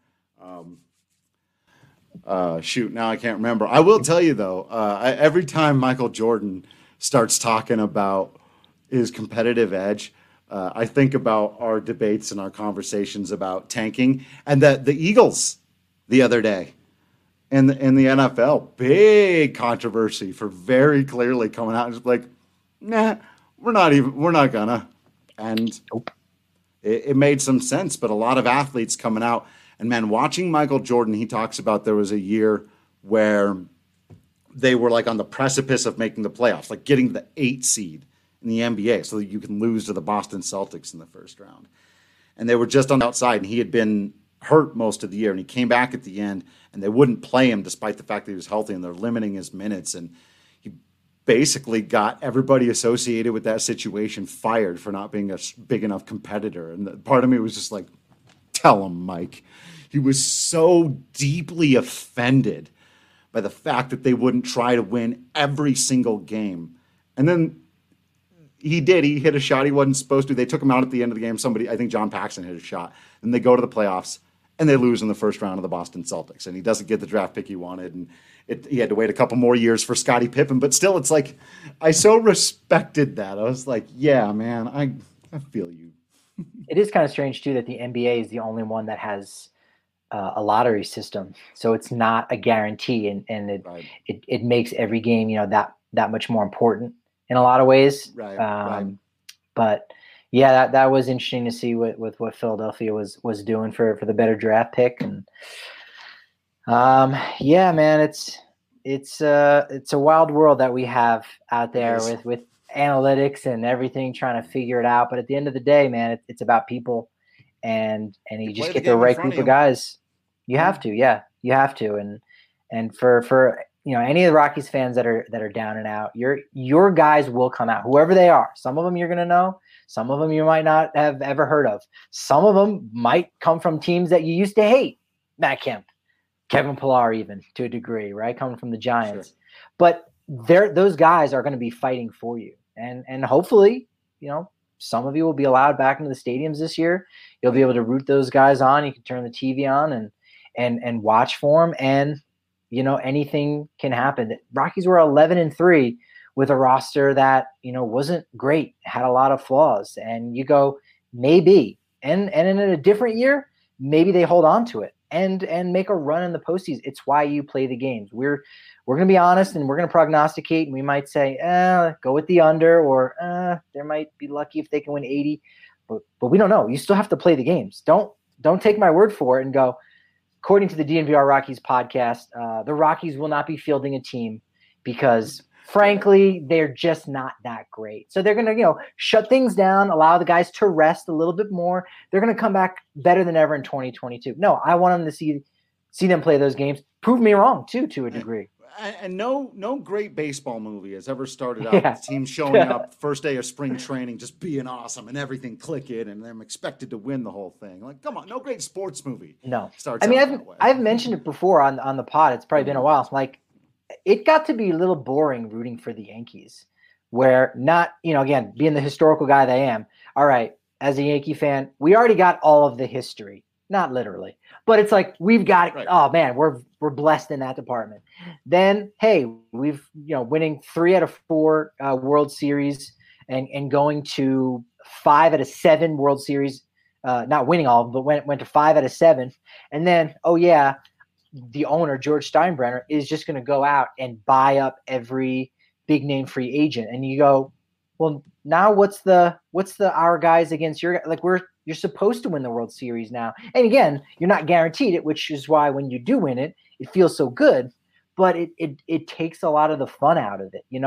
Shoot, now I can't remember. I will tell you though, every time Michael Jordan starts talking about his competitive edge, I think about our debates and our conversations about tanking, and that the Eagles the other day. In the NFL, big controversy for very clearly coming out and just like, nah, we're not gonna. And it made some sense, but a lot of athletes coming out. And man, watching Michael Jordan, he talks about there was a year where they were like on the precipice of making the playoffs, like getting the 8 seed in the NBA so that you can lose to the Boston Celtics in the first round. And they were just on the outside, and he had been hurt most of the year, and he came back at the end, and they wouldn't play him despite the fact that he was healthy, and they're limiting his minutes. And he basically got everybody associated with that situation fired for not being a big enough competitor. And part of me was just like, tell him, Mike. He was so deeply offended by the fact that they wouldn't try to win every single game. And then he did. He hit a shot he wasn't supposed to. They took him out at the end of the game. I think John Paxson hit a shot. And they go to the playoffs, and they lose in the first round of the Boston Celtics. And he doesn't get the draft pick he wanted. And he had to wait a couple more years for Scottie Pippen. But still, it's like, I so respected that. I was like, yeah, man, I feel you. It is kind of strange, too, that the NBA is the only one that has a lottery system. So it's not a guarantee. And it makes every game, that much more important in a lot of ways. Right. But yeah, that was interesting to see what Philadelphia was doing for the better draft pick. And yeah, man, it's a wild world that we have out there with analytics and everything, trying to figure it out. But at the end of the day, man, it's about people, and you just get the right group of guys. You have to, yeah, you have to. And for any of the Rockies fans that are down and out, your guys will come out, whoever they are. Some of them you're gonna know. Some of them you might not have ever heard of. Some of them might come from teams that you used to hate. Matt Kemp, Kevin Pillar, even to a degree, right? Coming from the Giants. Sure. But those guys are going to be fighting for you. And hopefully, some of you will be allowed back into the stadiums this year. You'll be able to root those guys on. You can turn the TV on and watch for them. And, anything can happen. The Rockies were 11-3. With a roster that, wasn't great, had a lot of flaws. And you go, maybe. And in a different year, maybe they hold on to it and make a run in the postseason. It's why you play the games. We're going to be honest, and we're going to prognosticate, and we might say, go with the under, or they might be lucky if they can win 80. But we don't know. You still have to play the games. Don't take my word for it and go, according to the DNVR Rockies podcast, the Rockies will not be fielding a team because – frankly, they're just not that great. So they're going to, shut things down, allow the guys to rest a little bit more. They're going to come back better than ever in 2022. No, I want them to see them play those games. Prove me wrong, too, to a degree. And no great baseball movie has ever started out with the team showing up first day of spring training, just being awesome and everything clicking, and them expected to win the whole thing. Like, come on, no great sports movie. No. Starts out that way. I've mentioned it before on the pod. It's probably been a while. Like, it got to be a little boring rooting for the Yankees, where not, again, being the historical guy that I am. All right, as a Yankee fan, we already got all of the history, not literally, but it's like we've got. Right. Oh man, we're blessed in that department. Then hey, we've winning 3 out of 4 World Series and going to 5 out of 7 World Series, not winning all of them, but went to 5 out of 7, and then the owner, George Steinbrenner, is just going to go out and buy up every big name free agent. And you go, well, now what's the our guys against your, like, you're supposed to win the World Series now. And again, you're not guaranteed it, which is why when you do win it, it feels so good, but it takes a lot of the fun out of it. You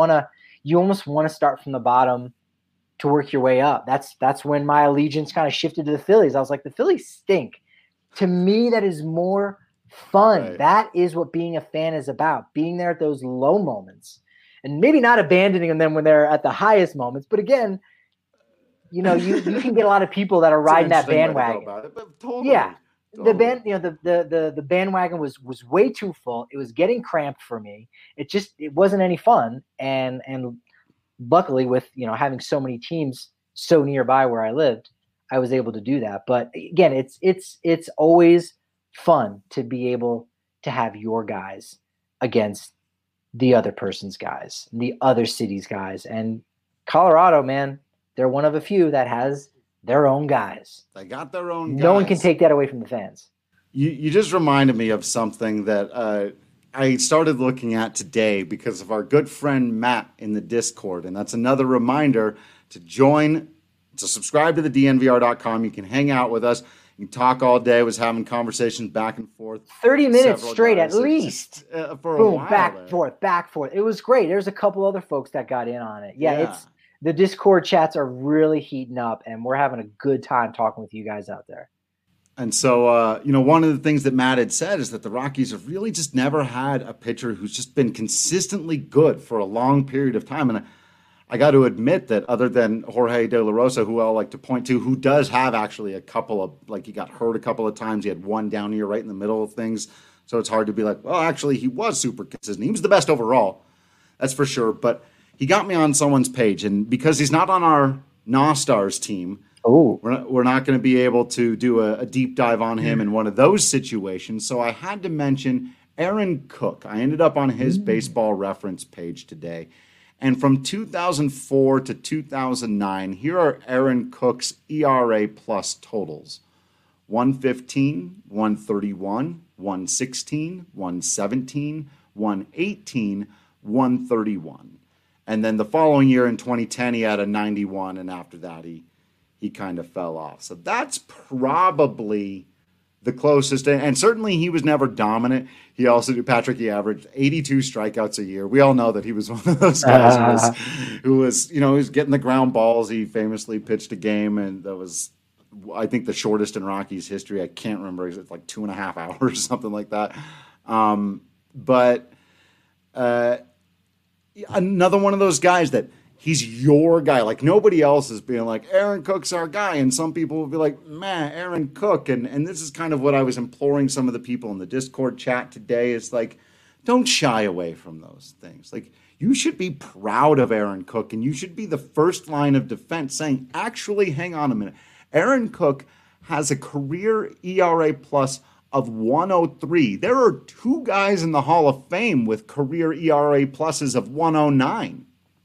almost want to start from the bottom to work your way up. That's when my allegiance kind of shifted to the Phillies. I was like, the Phillies stink. To me, that is more fun. Right. That is what being a fan is about, being there at those low moments and maybe not abandoning them when they're at the highest moments. But again, you can get a lot of people that are riding that bandwagon. Totally. Yeah. The bandwagon was way too full. It was getting cramped for me. It wasn't any fun. And luckily with, having so many teams so nearby where I lived, I was able to do that. But again, it's always fun to be able to have your guys against the other person's guys, the other city's guys. And Colorado, man, they're one of a few that has their own guys. They got their own guys. No one can take that away from the fans. You just reminded me of something that I started looking at today because of our good friend Matt in the Discord. And that's another reminder to subscribe to the DNVR.com. You can hang out with us. You can talk all day. I was having conversations back and forth. 30 minutes straight at least. For Boom, a while back, forth. It was great. There's a couple other folks that got in on it. Yeah. The Discord chats are really heating up, and we're having a good time talking with you guys out there. And so, one of the things that Matt had said is that the Rockies have really just never had a pitcher who's just been consistently good for a long period of time. And I got to admit that other than Jorge De La Rosa, who I like to point to, who does have actually a couple of, he got hurt a couple of times. He had one down here right in the middle of things. So it's hard to be like, well, actually, he was super consistent. He was the best overall. That's for sure. But he got me on someone's page. And because he's not on our Nostars team, we're not going to be able to do a deep dive on him in one of those situations. So I had to mention Aaron Cook. I ended up on his baseball reference page today. And from 2004 to 2009, here are Aaron Cook's ERA plus totals. 115, 131, 116, 117, 118, 131. And then the following year in 2010, he had a 91, and after that, he kind of fell off. So that's probably the closest. And certainly he was never dominant. He averaged 82 strikeouts a year. We all know that he was one of those guys who was getting the ground balls. He famously pitched a game, and that was, I think, the shortest in Rockies history. I can't remember. It's like 2.5 hours, something like that. But another one of those guys that he's your guy. Like, nobody else is being like, Aaron Cook's our guy. And some people will be like, man, Aaron Cook. And this is kind of what I was imploring some of the people in the Discord chat today is like, don't shy away from those things. Like, you should be proud of Aaron Cook, and you should be the first line of defense saying, actually, hang on a minute. Aaron Cook has a career ERA plus of 103. There are two guys in the Hall of Fame with career ERA pluses of 109.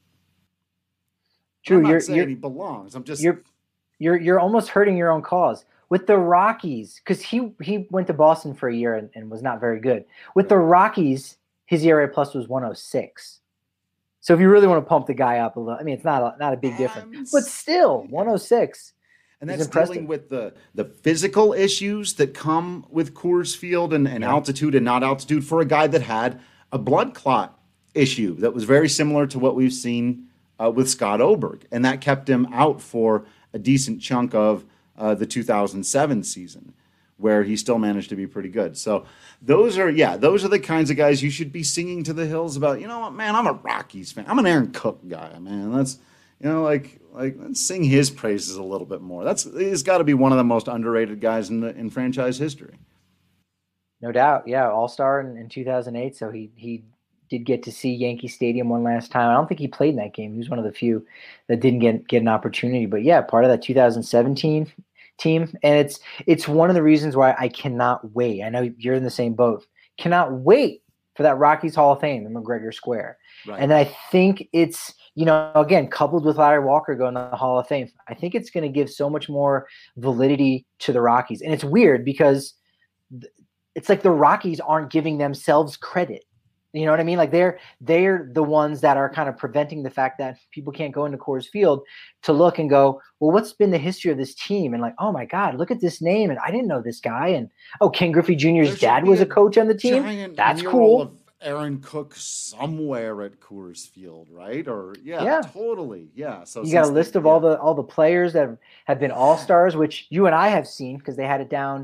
True, I'm not saying he belongs. I'm just you're almost hurting your own cause with the Rockies, because he went to Boston for a year and was not very good. With the Rockies, his ERA plus was 106. So if you really want to pump the guy up a little, I mean, it's not a big difference, but still 106. And that's dealing with the physical issues that come with Coors Field and altitude and not altitude for a guy that had a blood clot issue that was very similar to what we've seen with Scott Oberg. And that kept him out for a decent chunk of the 2007 season, where he still managed to be pretty good. So those are the kinds of guys you should be singing to the hills about. You know what, man, I'm a Rockies fan. I'm an Aaron Cook guy, man. Let's let's sing his praises a little bit more. He's got to be one of the most underrated guys in franchise history. No doubt. Yeah. All-Star in 2008. So he did get to see Yankee Stadium one last time. I don't think he played in that game. He was one of the few that didn't get an opportunity. But yeah, part of that 2017 team. And it's one of the reasons why I cannot wait. I know you're in the same boat. Cannot wait for that Rockies Hall of Fame in McGregor Square. Right. And I think it's, again, coupled with Larry Walker going to the Hall of Fame, I think it's going to give so much more validity to the Rockies. And it's weird because it's like the Rockies aren't giving themselves credit. You know what I mean? Like they're the ones that are kind of preventing the fact that people can't go into Coors Field to look and go, well, what's been the history of this team? And like, oh my God, look at this name. And I didn't know this guy. And Ken Griffey Jr.'s dad was a coach on the team. That's cool. Of Aaron Cook somewhere at Coors Field, right? Or totally. Yeah. So you got a list of all the players that have been All-Stars, which you and I have seen because they had it down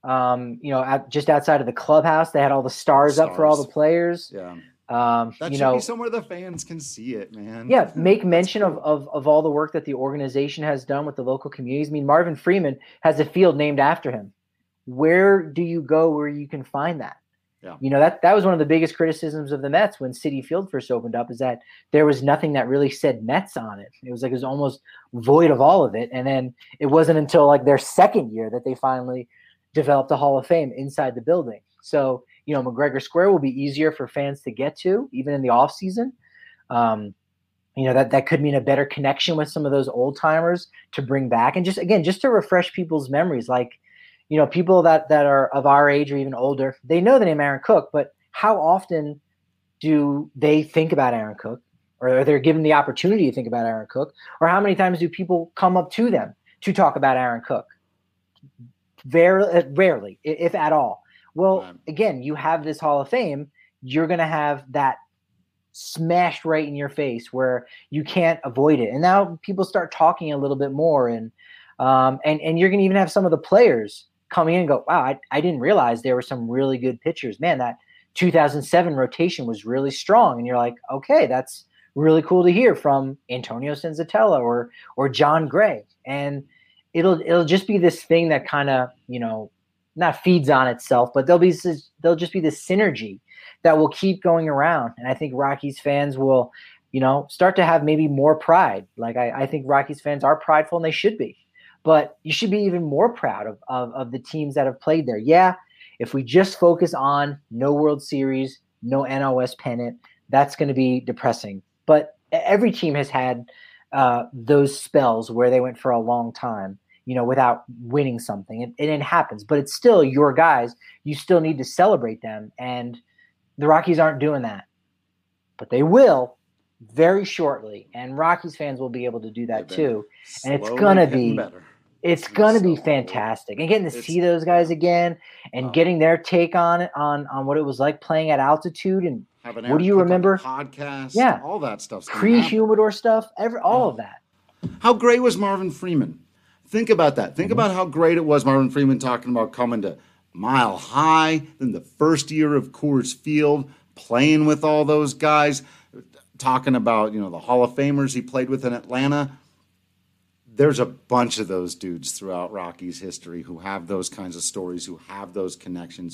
just outside of the clubhouse. They had all the stars up for all the players. Yeah. That should be somewhere the fans can see it, man. Yeah. Make mention of all the work that the organization has done with the local communities. I mean, Marvin Freeman has a field named after him. Where do you go where you can find that? Yeah. That was one of the biggest criticisms of the Mets when Citi Field first opened up, is that there was nothing that really said Mets on it. It was almost void of all of it. And then it wasn't until like their second year that they finally developed a Hall of Fame inside the building. So, McGregor Square will be easier for fans to get to, even in the off season. That could mean a better connection with some of those old timers to bring back. And just to refresh people's memories, like, people that are of our age or even older, they know the name Aaron Cook, but how often do they think about Aaron Cook, or they're given the opportunity to think about Aaron Cook, or how many times do people come up to them to talk about Aaron Cook? Very rarely, if at all. Well, again, you have this Hall of Fame, you're going to have that smashed right in your face where you can't avoid it. And now people start talking a little bit more, and you're going to even have some of the players coming in and go, wow, I didn't realize there were some really good pitchers. Man, that 2007 rotation was really strong. And you're like, okay, that's really cool to hear from Antonio Senzatella or John Gray. And it'll just be this thing that kind of, not feeds on itself, but there'll just be this synergy that will keep going around. And I think Rockies fans will, start to have maybe more pride. Like I think Rockies fans are prideful, and they should be. But you should be even more proud of the teams that have played there. Yeah, if we just focus on no World Series, no NOS pennant, that's going to be depressing. But every team has had those spells where they went for a long time, without winning something. And it happens. But it's still your guys. You still need to celebrate them. And the Rockies aren't doing that. But they will very shortly. And Rockies fans will be able to do that too. And it's going to be better. It's going to be fantastic. And getting to see those guys again and getting their take on it, on what it was like playing at altitude. And what do you remember? Podcast, yeah. All that stuff. Pre-humidor stuff, all of that. How great was Marvin Freeman? Think about that. Think about how great it was, Marvin Freeman talking about coming to Mile High, then the first year of Coors Field, playing with all those guys, talking about, the Hall of Famers he played with in Atlanta. There's a bunch of those dudes throughout Rockies history who have those kinds of stories, who have those connections,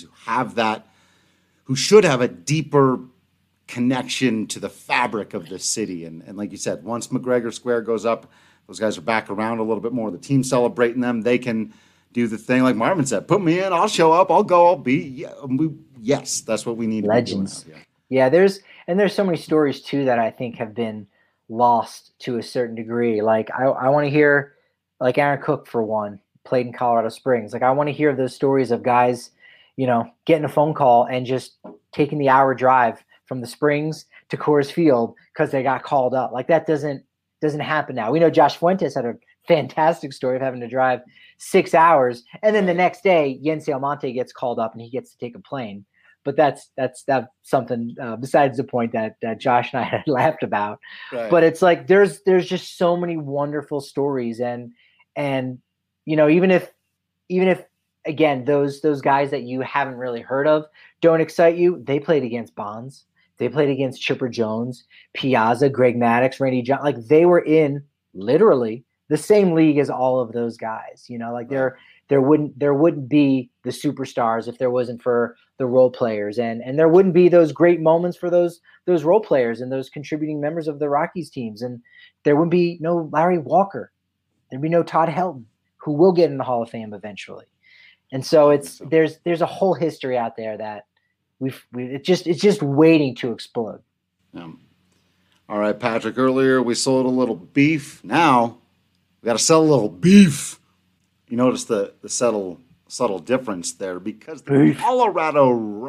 who should have a deeper connection to the fabric of this city. And like you said, once McGregor Square goes up, those guys are back around a little bit more. The team celebrating them, they can do the thing like Marvin said, put me in, I'll show up, I'll go, I'll be. Yes, that's what we need. Legends. To be doing. Yeah, there's so many stories too that I think have been lost to a certain degree. Like I want to hear, like Aaron Cook for one, played in Colorado Springs. Like I want to hear those stories of guys, getting a phone call and just taking the hour drive from the Springs to Coors Field because they got called up. Like that doesn't happen now. We know Josh Fuentes had a fantastic story of having to drive 6 hours, and then the next day Yency Almonte gets called up and he gets to take a plane. But that's something besides the point that Josh and I had laughed about. Right. But it's like there's just so many wonderful stories, and even if again those guys that you haven't really heard of don't excite you, they played against Bonds, they played against Chipper Jones, Piazza, Greg Maddux, Randy John. Like they were in literally the same league as all of those guys. Like there wouldn't be the superstars if there wasn't for the role players, and there wouldn't be those great moments for those role players and those contributing members of the Rockies teams, and there wouldn't be no Larry Walker, there'd be no Todd Helton, who will get in the Hall of Fame eventually. And so there's a whole history out there that it's just waiting to explode. Yeah. All right, Patrick. Earlier we sold a little beef. Now we got to sell a little beef. You notice the subtle difference there, because the Colorado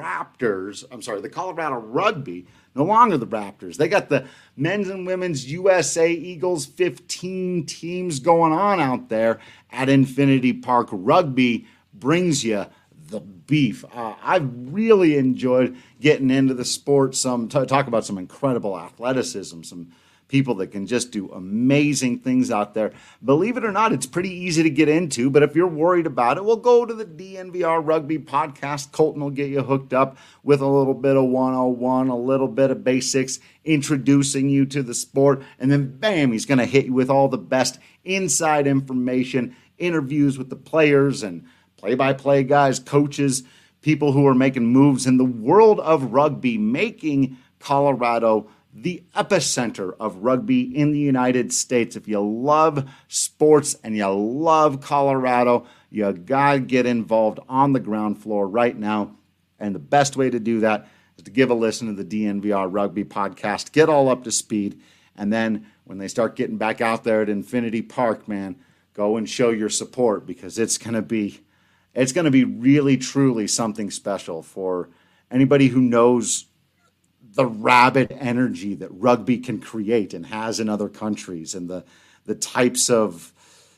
Rugby, no longer the Raptors. They got the men's and women's USA Eagles 15 teams going on out there at Infinity Park. Rugby brings you the beef. I've really enjoyed getting into the sport. Talk about some incredible athleticism, some people that can just do amazing things out there. Believe it or not, it's pretty easy to get into, but if you're worried about it, we'll go to the DNVR Rugby podcast. Colton will get you hooked up with a little bit of 101, a little bit of basics, introducing you to the sport, and then bam, he's going to hit you with all the best inside information, interviews with the players and play-by-play guys, coaches, people who are making moves in the world of rugby, making Colorado the epicenter of rugby in the United States. If you love sports and you love Colorado, you gotta get involved on the ground floor right now. And the best way to do that is to give a listen to the DNVR Rugby podcast, get all up to speed, and then when they start getting back out there at Infinity Park, man, go and show your support, because it's gonna be It's going to be really, truly something special for anybody who knows the rabid energy that rugby can create and has in other countries, and the types of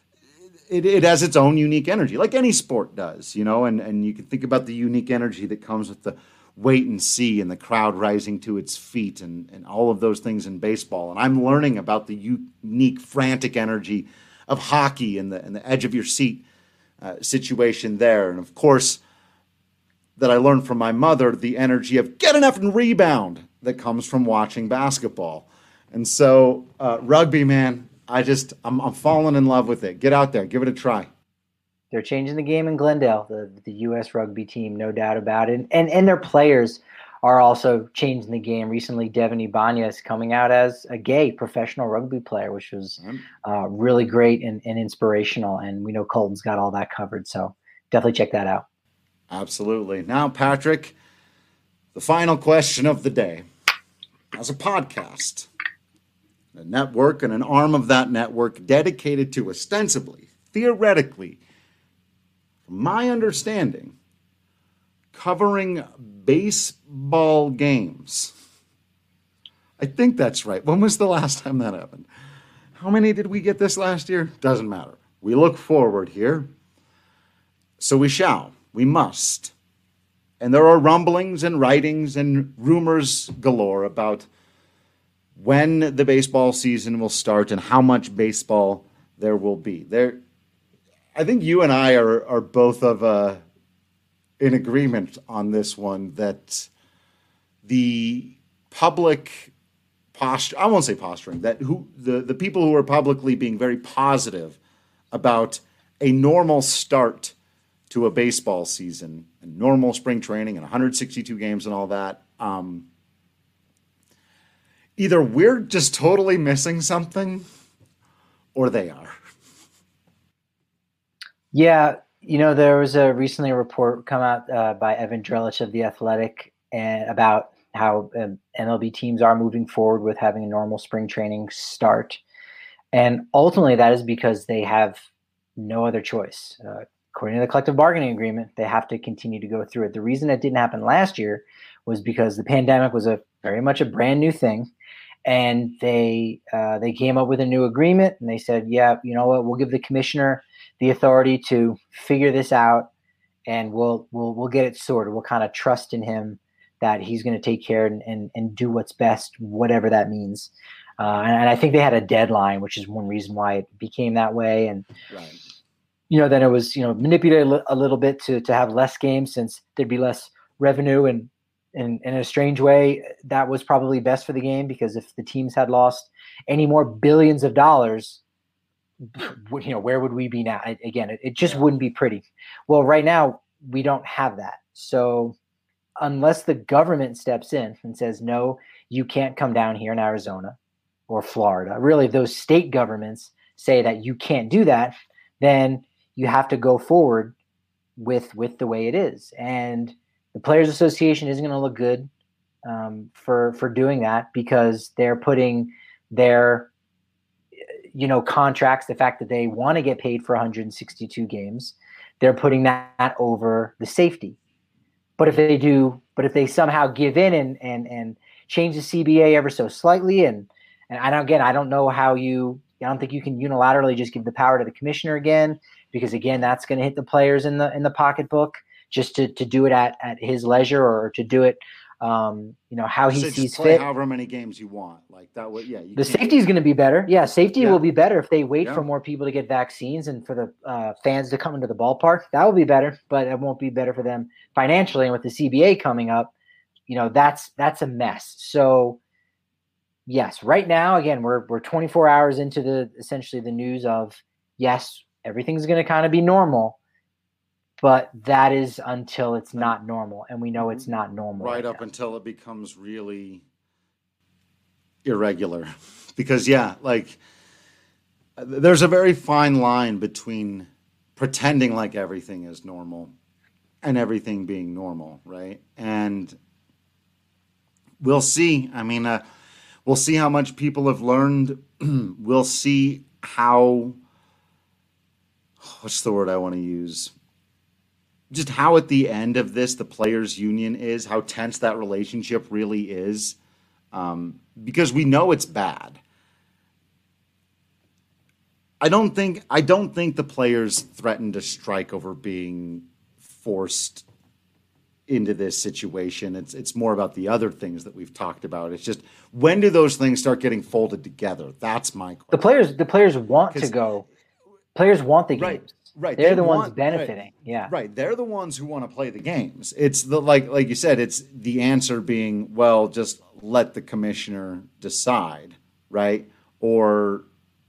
it has its own unique energy, like any sport does, and you can think about the unique energy that comes with the wait and see and the crowd rising to its feet and all of those things in baseball. And I'm learning about the unique, frantic energy of hockey and the edge of your seat situation there. And of course, that I learned from my mother, the energy of get enough and rebound that comes from watching basketball. And so rugby, man, I'm falling in love with it. Get out there, give it a try. They're changing the game in Glendale, the U.S. rugby team, no doubt about it. And their players are also changing the game. Recently, Devin Ibanez coming out as a gay professional rugby player, which was really great and inspirational. And we know Colton's got all that covered, so definitely check that out. Absolutely. Now, Patrick, the final question of the day. As a podcast, a network and an arm of that network dedicated to ostensibly, theoretically, from my understanding, covering baseball games. I think that's right. When was the last time that happened? How many did we get this last year? Doesn't matter. We look forward here. So we must. And there are rumblings and writings and rumors galore about when the baseball season will start and how much baseball there will be. I think you and I are both in agreement on this one, that the public posture, I won't say posturing, that the people who are publicly being very positive about a normal start to a baseball season and normal spring training and 162 games and all that, either we're just totally missing something or they are. Yeah, there was recently a report come out by Evan Drellich of The Athletic and about how MLB teams are moving forward with having a normal spring training start. And ultimately that is because they have no other choice. According to the collective bargaining agreement, they have to continue to go through it. The reason it didn't happen last year was because the pandemic was very much a brand new thing. And they came up with a new agreement, and they said, yeah, you know what, we'll give the commissioner the authority to figure this out, and we'll get it sorted. We'll kind of trust in him that he's going to take care and do what's best, whatever that means. And I think they had a deadline, which is one reason why it became that way. And right. Then it was manipulated a little bit to have less games, since there'd be less revenue, and in a strange way, that was probably best for the game, because if the teams had lost any more billions of dollars, where would we be now? It just wouldn't be pretty. Well, right now we don't have that. So unless the government steps in and says, no, you can't come down here in Arizona or Florida, really, if those state governments say that you can't do that, then you have to go forward with the way it is. And the Players Association isn't going to look good for doing that, because they're putting their contracts, the fact that they want to get paid for 162 games, they're putting that over the safety. But if they somehow give in and change the CBA ever so slightly, and I don't know how I don't think you can unilaterally just give the power to the commissioner again, because again, that's going to hit the players in the pocketbook, just to do it at his leisure, or to do it how he sees fit. However many games you want, like that would, yeah. The safety is going to be better. Yeah, safety will be better if they wait for more people to get vaccines and for the fans to come into the ballpark. That will be better, but it won't be better for them financially. And with the CBA coming up, that's a mess. So yes, right now, again, we're 24 hours into essentially the news of, yes, everything's going to kind of be normal. But that is until it's not normal, and we know it's not normal. Right up until it becomes really irregular. Because, there's a very fine line between pretending like everything is normal and everything being normal, right? And we'll see. I mean, we'll see how much people have learned. We'll see how, what's the word I want to use? just how at the end of this the players union is, how tense that relationship really is, because we know it's bad. I don't think the players threatened to strike over being forced into this situation. It's more about the other things that we've talked about. It's just, when do those things start getting folded together? That's my question. The players want to go. Players want the games. Right. They're the ones benefiting. Right, yeah. Right. They're the ones who want to play the games. It's the like you said, it's the answer being, well, just let the commissioner decide, right? Or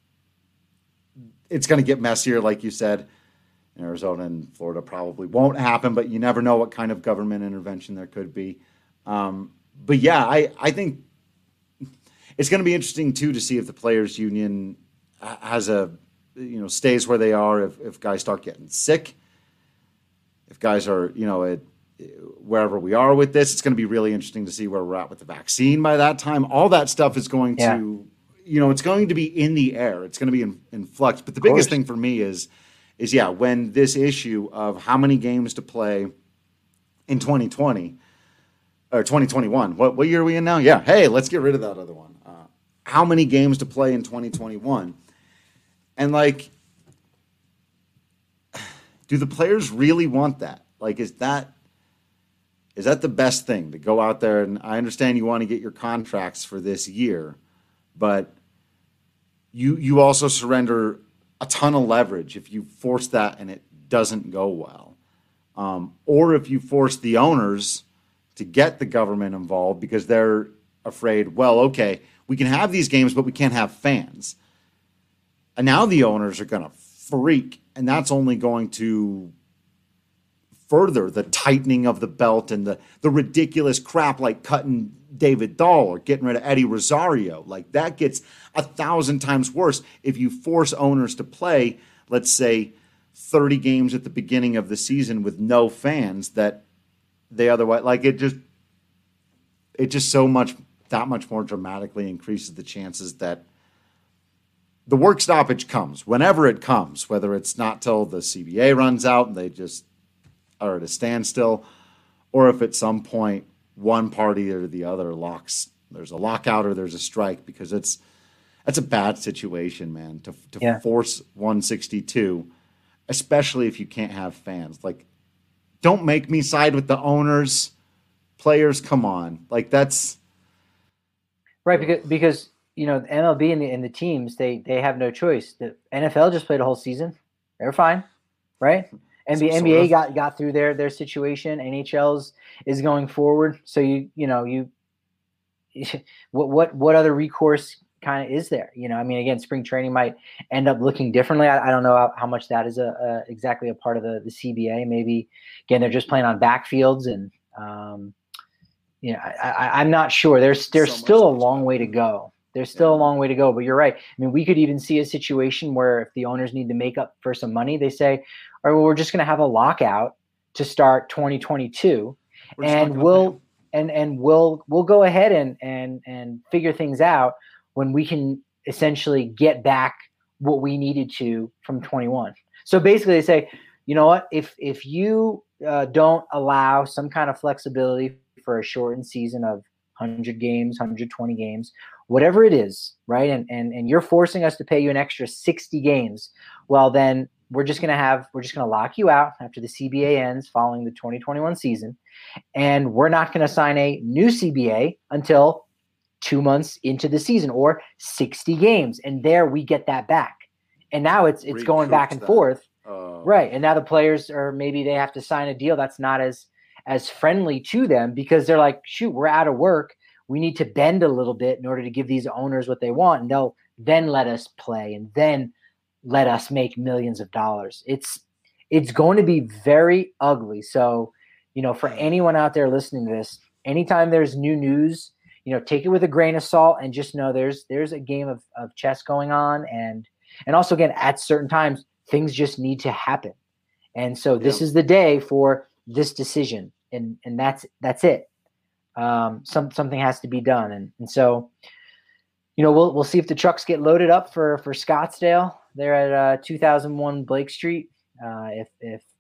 it's going to get messier, like you said. Arizona and Florida probably won't happen, but you never know what kind of government intervention there could be. But yeah, I think it's going to be interesting too to see if the players union has stays where they are, if guys start getting sick, if guys are, wherever we are with this. It's going to be really interesting to see where we're at with the vaccine by that time. All that stuff is going to, it's going to be in the air. It's going to be in flux. But the biggest thing for me is when this issue of how many games to play in 2020 or 2021, what year are we in now? Yeah. Hey, let's get rid of that other one. How many games to play in 2021? And do the players really want that? Is that the best thing, to go out there? And I understand you want to get your contracts for this year, but you also surrender a ton of leverage if you force that and it doesn't go well. Or if you force the owners to get the government involved because they're afraid, well, okay, we can have these games, but we can't have fans. And now the owners are going to freak, and that's only going to further the tightening of the belt and the ridiculous crap like cutting David Dahl or getting rid of Eddie Rosario. That gets 1,000 times worse if you force owners to play, let's say, 30 games at the beginning of the season with no fans that they otherwise, it just that much more dramatically increases the chances that the work stoppage comes whenever it comes, whether it's not till the CBA runs out and they just are at a standstill, or if at some point one party or the other there's a lockout or there's a strike, because that's a bad situation, man, to force 162, especially if you can't have fans. Don't make me side with the owners. Players, come on. That's right, because the MLB and the teams, they have no choice. The NFL just played a whole season. They're fine, right? NBA got through their situation. NHL's is going forward. So what other recourse kind of is there? Again, spring training might end up looking differently. I don't know how much that is exactly a part of the CBA. Maybe again they're just playing on backfields, and I'm not sure. There's still a long way to go. There's still a long way to go, but you're right. We could even see a situation where if the owners need to make up for some money, they say, all right, well, we're just going to have a lockout to start 2022, and we'll go ahead and figure things out when we can essentially get back what we needed to from 21. So basically they say, you know what, if you don't allow some kind of flexibility for a shortened season of 100 games, 120 games, whatever it is, right? And you're forcing us to pay you an extra 60 games. Well, then we're just going to lock you out after the CBA ends following the 2021 season. And we're not going to sign a new CBA until 2 months into the season, or 60 games. And there we get that back. And now it's going back and forth. Right. And now the players maybe they have to sign a deal that's not as friendly to them, because they're like, shoot, we're out of work. We need to bend a little bit in order to give these owners what they want. And they'll then let us play and then let us make millions of dollars. It's going to be very ugly. So, for anyone out there listening to this, anytime there's new news, take it with a grain of salt and just know there's a game of chess going on. And also, again, at certain times, things just need to happen. And so this is the day for this decision. And that's it. Something has to be done. And so, we'll see if the trucks get loaded up for Scottsdale. They're at 2001 Blake Street. If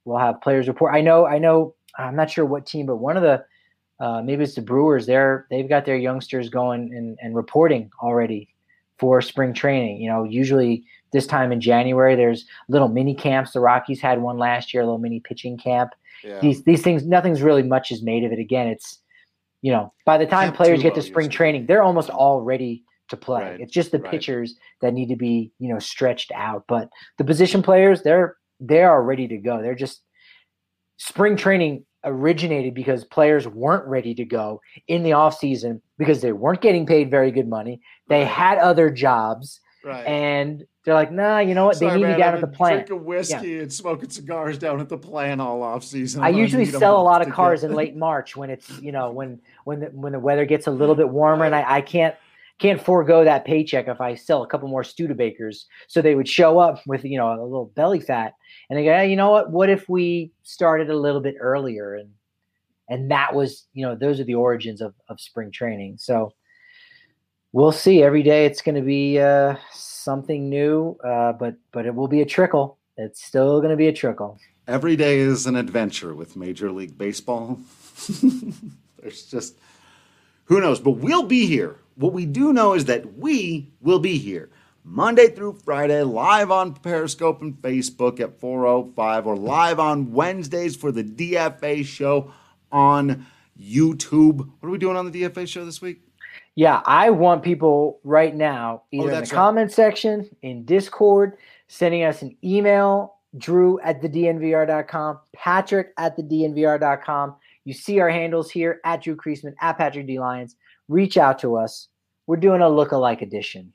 we'll have players report. I know. I'm not sure what team, but one of the maybe it's the Brewers. They've got their youngsters going and reporting already for spring training. Usually this time in January, there's little mini camps. The Rockies had one last year, a little mini pitching camp. Yeah. These things, nothing's really much is made of it. Again, it's, by the time players get to spring training, they're almost all ready to play. Right. It's just the pitchers that need to be, stretched out. But the position players, they are ready to go. They're just spring training originated because players weren't ready to go in the off season because they weren't getting paid very good money. They had other jobs. Right. And they're like, nah, you know what? They need me down at the plant. Drinking whiskey and smoking cigars down at the plant all off season. I usually sell a lot of cars in late March when it's, when the weather gets a little bit warmer, and I can't forego that paycheck if I sell a couple more Studebakers. So they would show up with, a little belly fat, and they go, hey, you know what if we started a little bit earlier? And that was, those are the origins of spring training. So we'll see. Every day it's going to be something new, but it will be a trickle. It's still going to be a trickle. Every day is an adventure with Major League Baseball. There's just, who knows? But we'll be here. What we do know is that we will be here Monday through Friday, live on Periscope and Facebook at 4:05, or live on Wednesdays for the DFA show on YouTube. What are we doing on the DFA show this week? Yeah, I want people right now, either in the comment section, in Discord, sending us an email, drew@thednvr.com, patrick@thednvr.com. You see our handles here, at Drew Creasman, at Patrick D. Lyons. Reach out to us. We're doing a look-alike edition.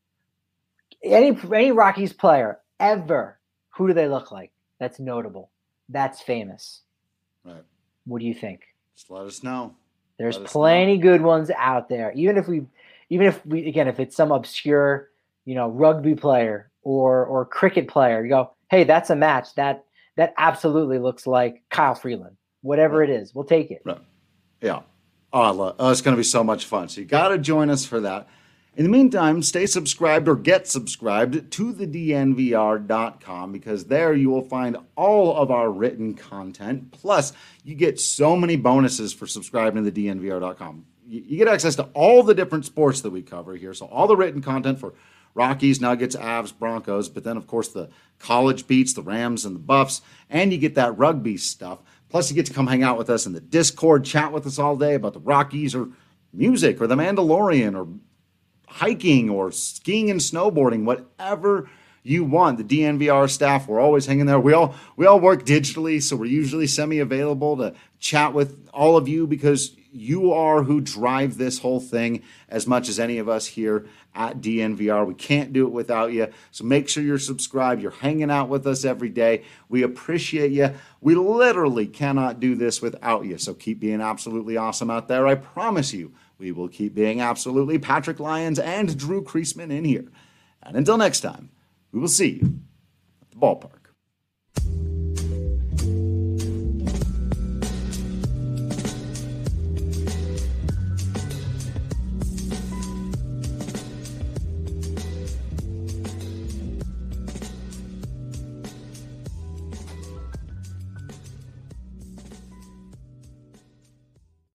Any Rockies player ever, who do they look like? That's notable. That's famous. Right. What do you think? Just let us know. There's plenty good ones out there. Even if we, again, if it's some obscure, rugby player or cricket player, you go, hey, that's a match. That absolutely looks like Kyle Freeland. Whatever it is, we'll take it. Right. Yeah. Oh, it's going to be so much fun. So you got to join us for that. In the meantime, stay subscribed or get subscribed to thednvr.com, because there you will find all of our written content. Plus, you get so many bonuses for subscribing to thednvr.com. You get access to all the different sports that we cover here. So all the written content for Rockies, Nuggets, Avs, Broncos, but then, of course, the college beats, the Rams and the Buffs, and you get that rugby stuff. Plus, you get to come hang out with us in the Discord, chat with us all day about the Rockies or music or The Mandalorian or hiking or skiing and snowboarding, whatever you want. The DNVR staff, we're always hanging there. We all work digitally, so we're usually semi-available to chat with all of you, because you are who drive this whole thing as much as any of us here at DNVR. We can't do it without you. So make sure you're subscribed. You're hanging out with us every day. We appreciate you. We literally cannot do this without you. So keep being absolutely awesome out there. I promise you, we will keep being absolutely Patrick Lyons and Drew Creasman in here. And until next time, we will see you at the ballpark.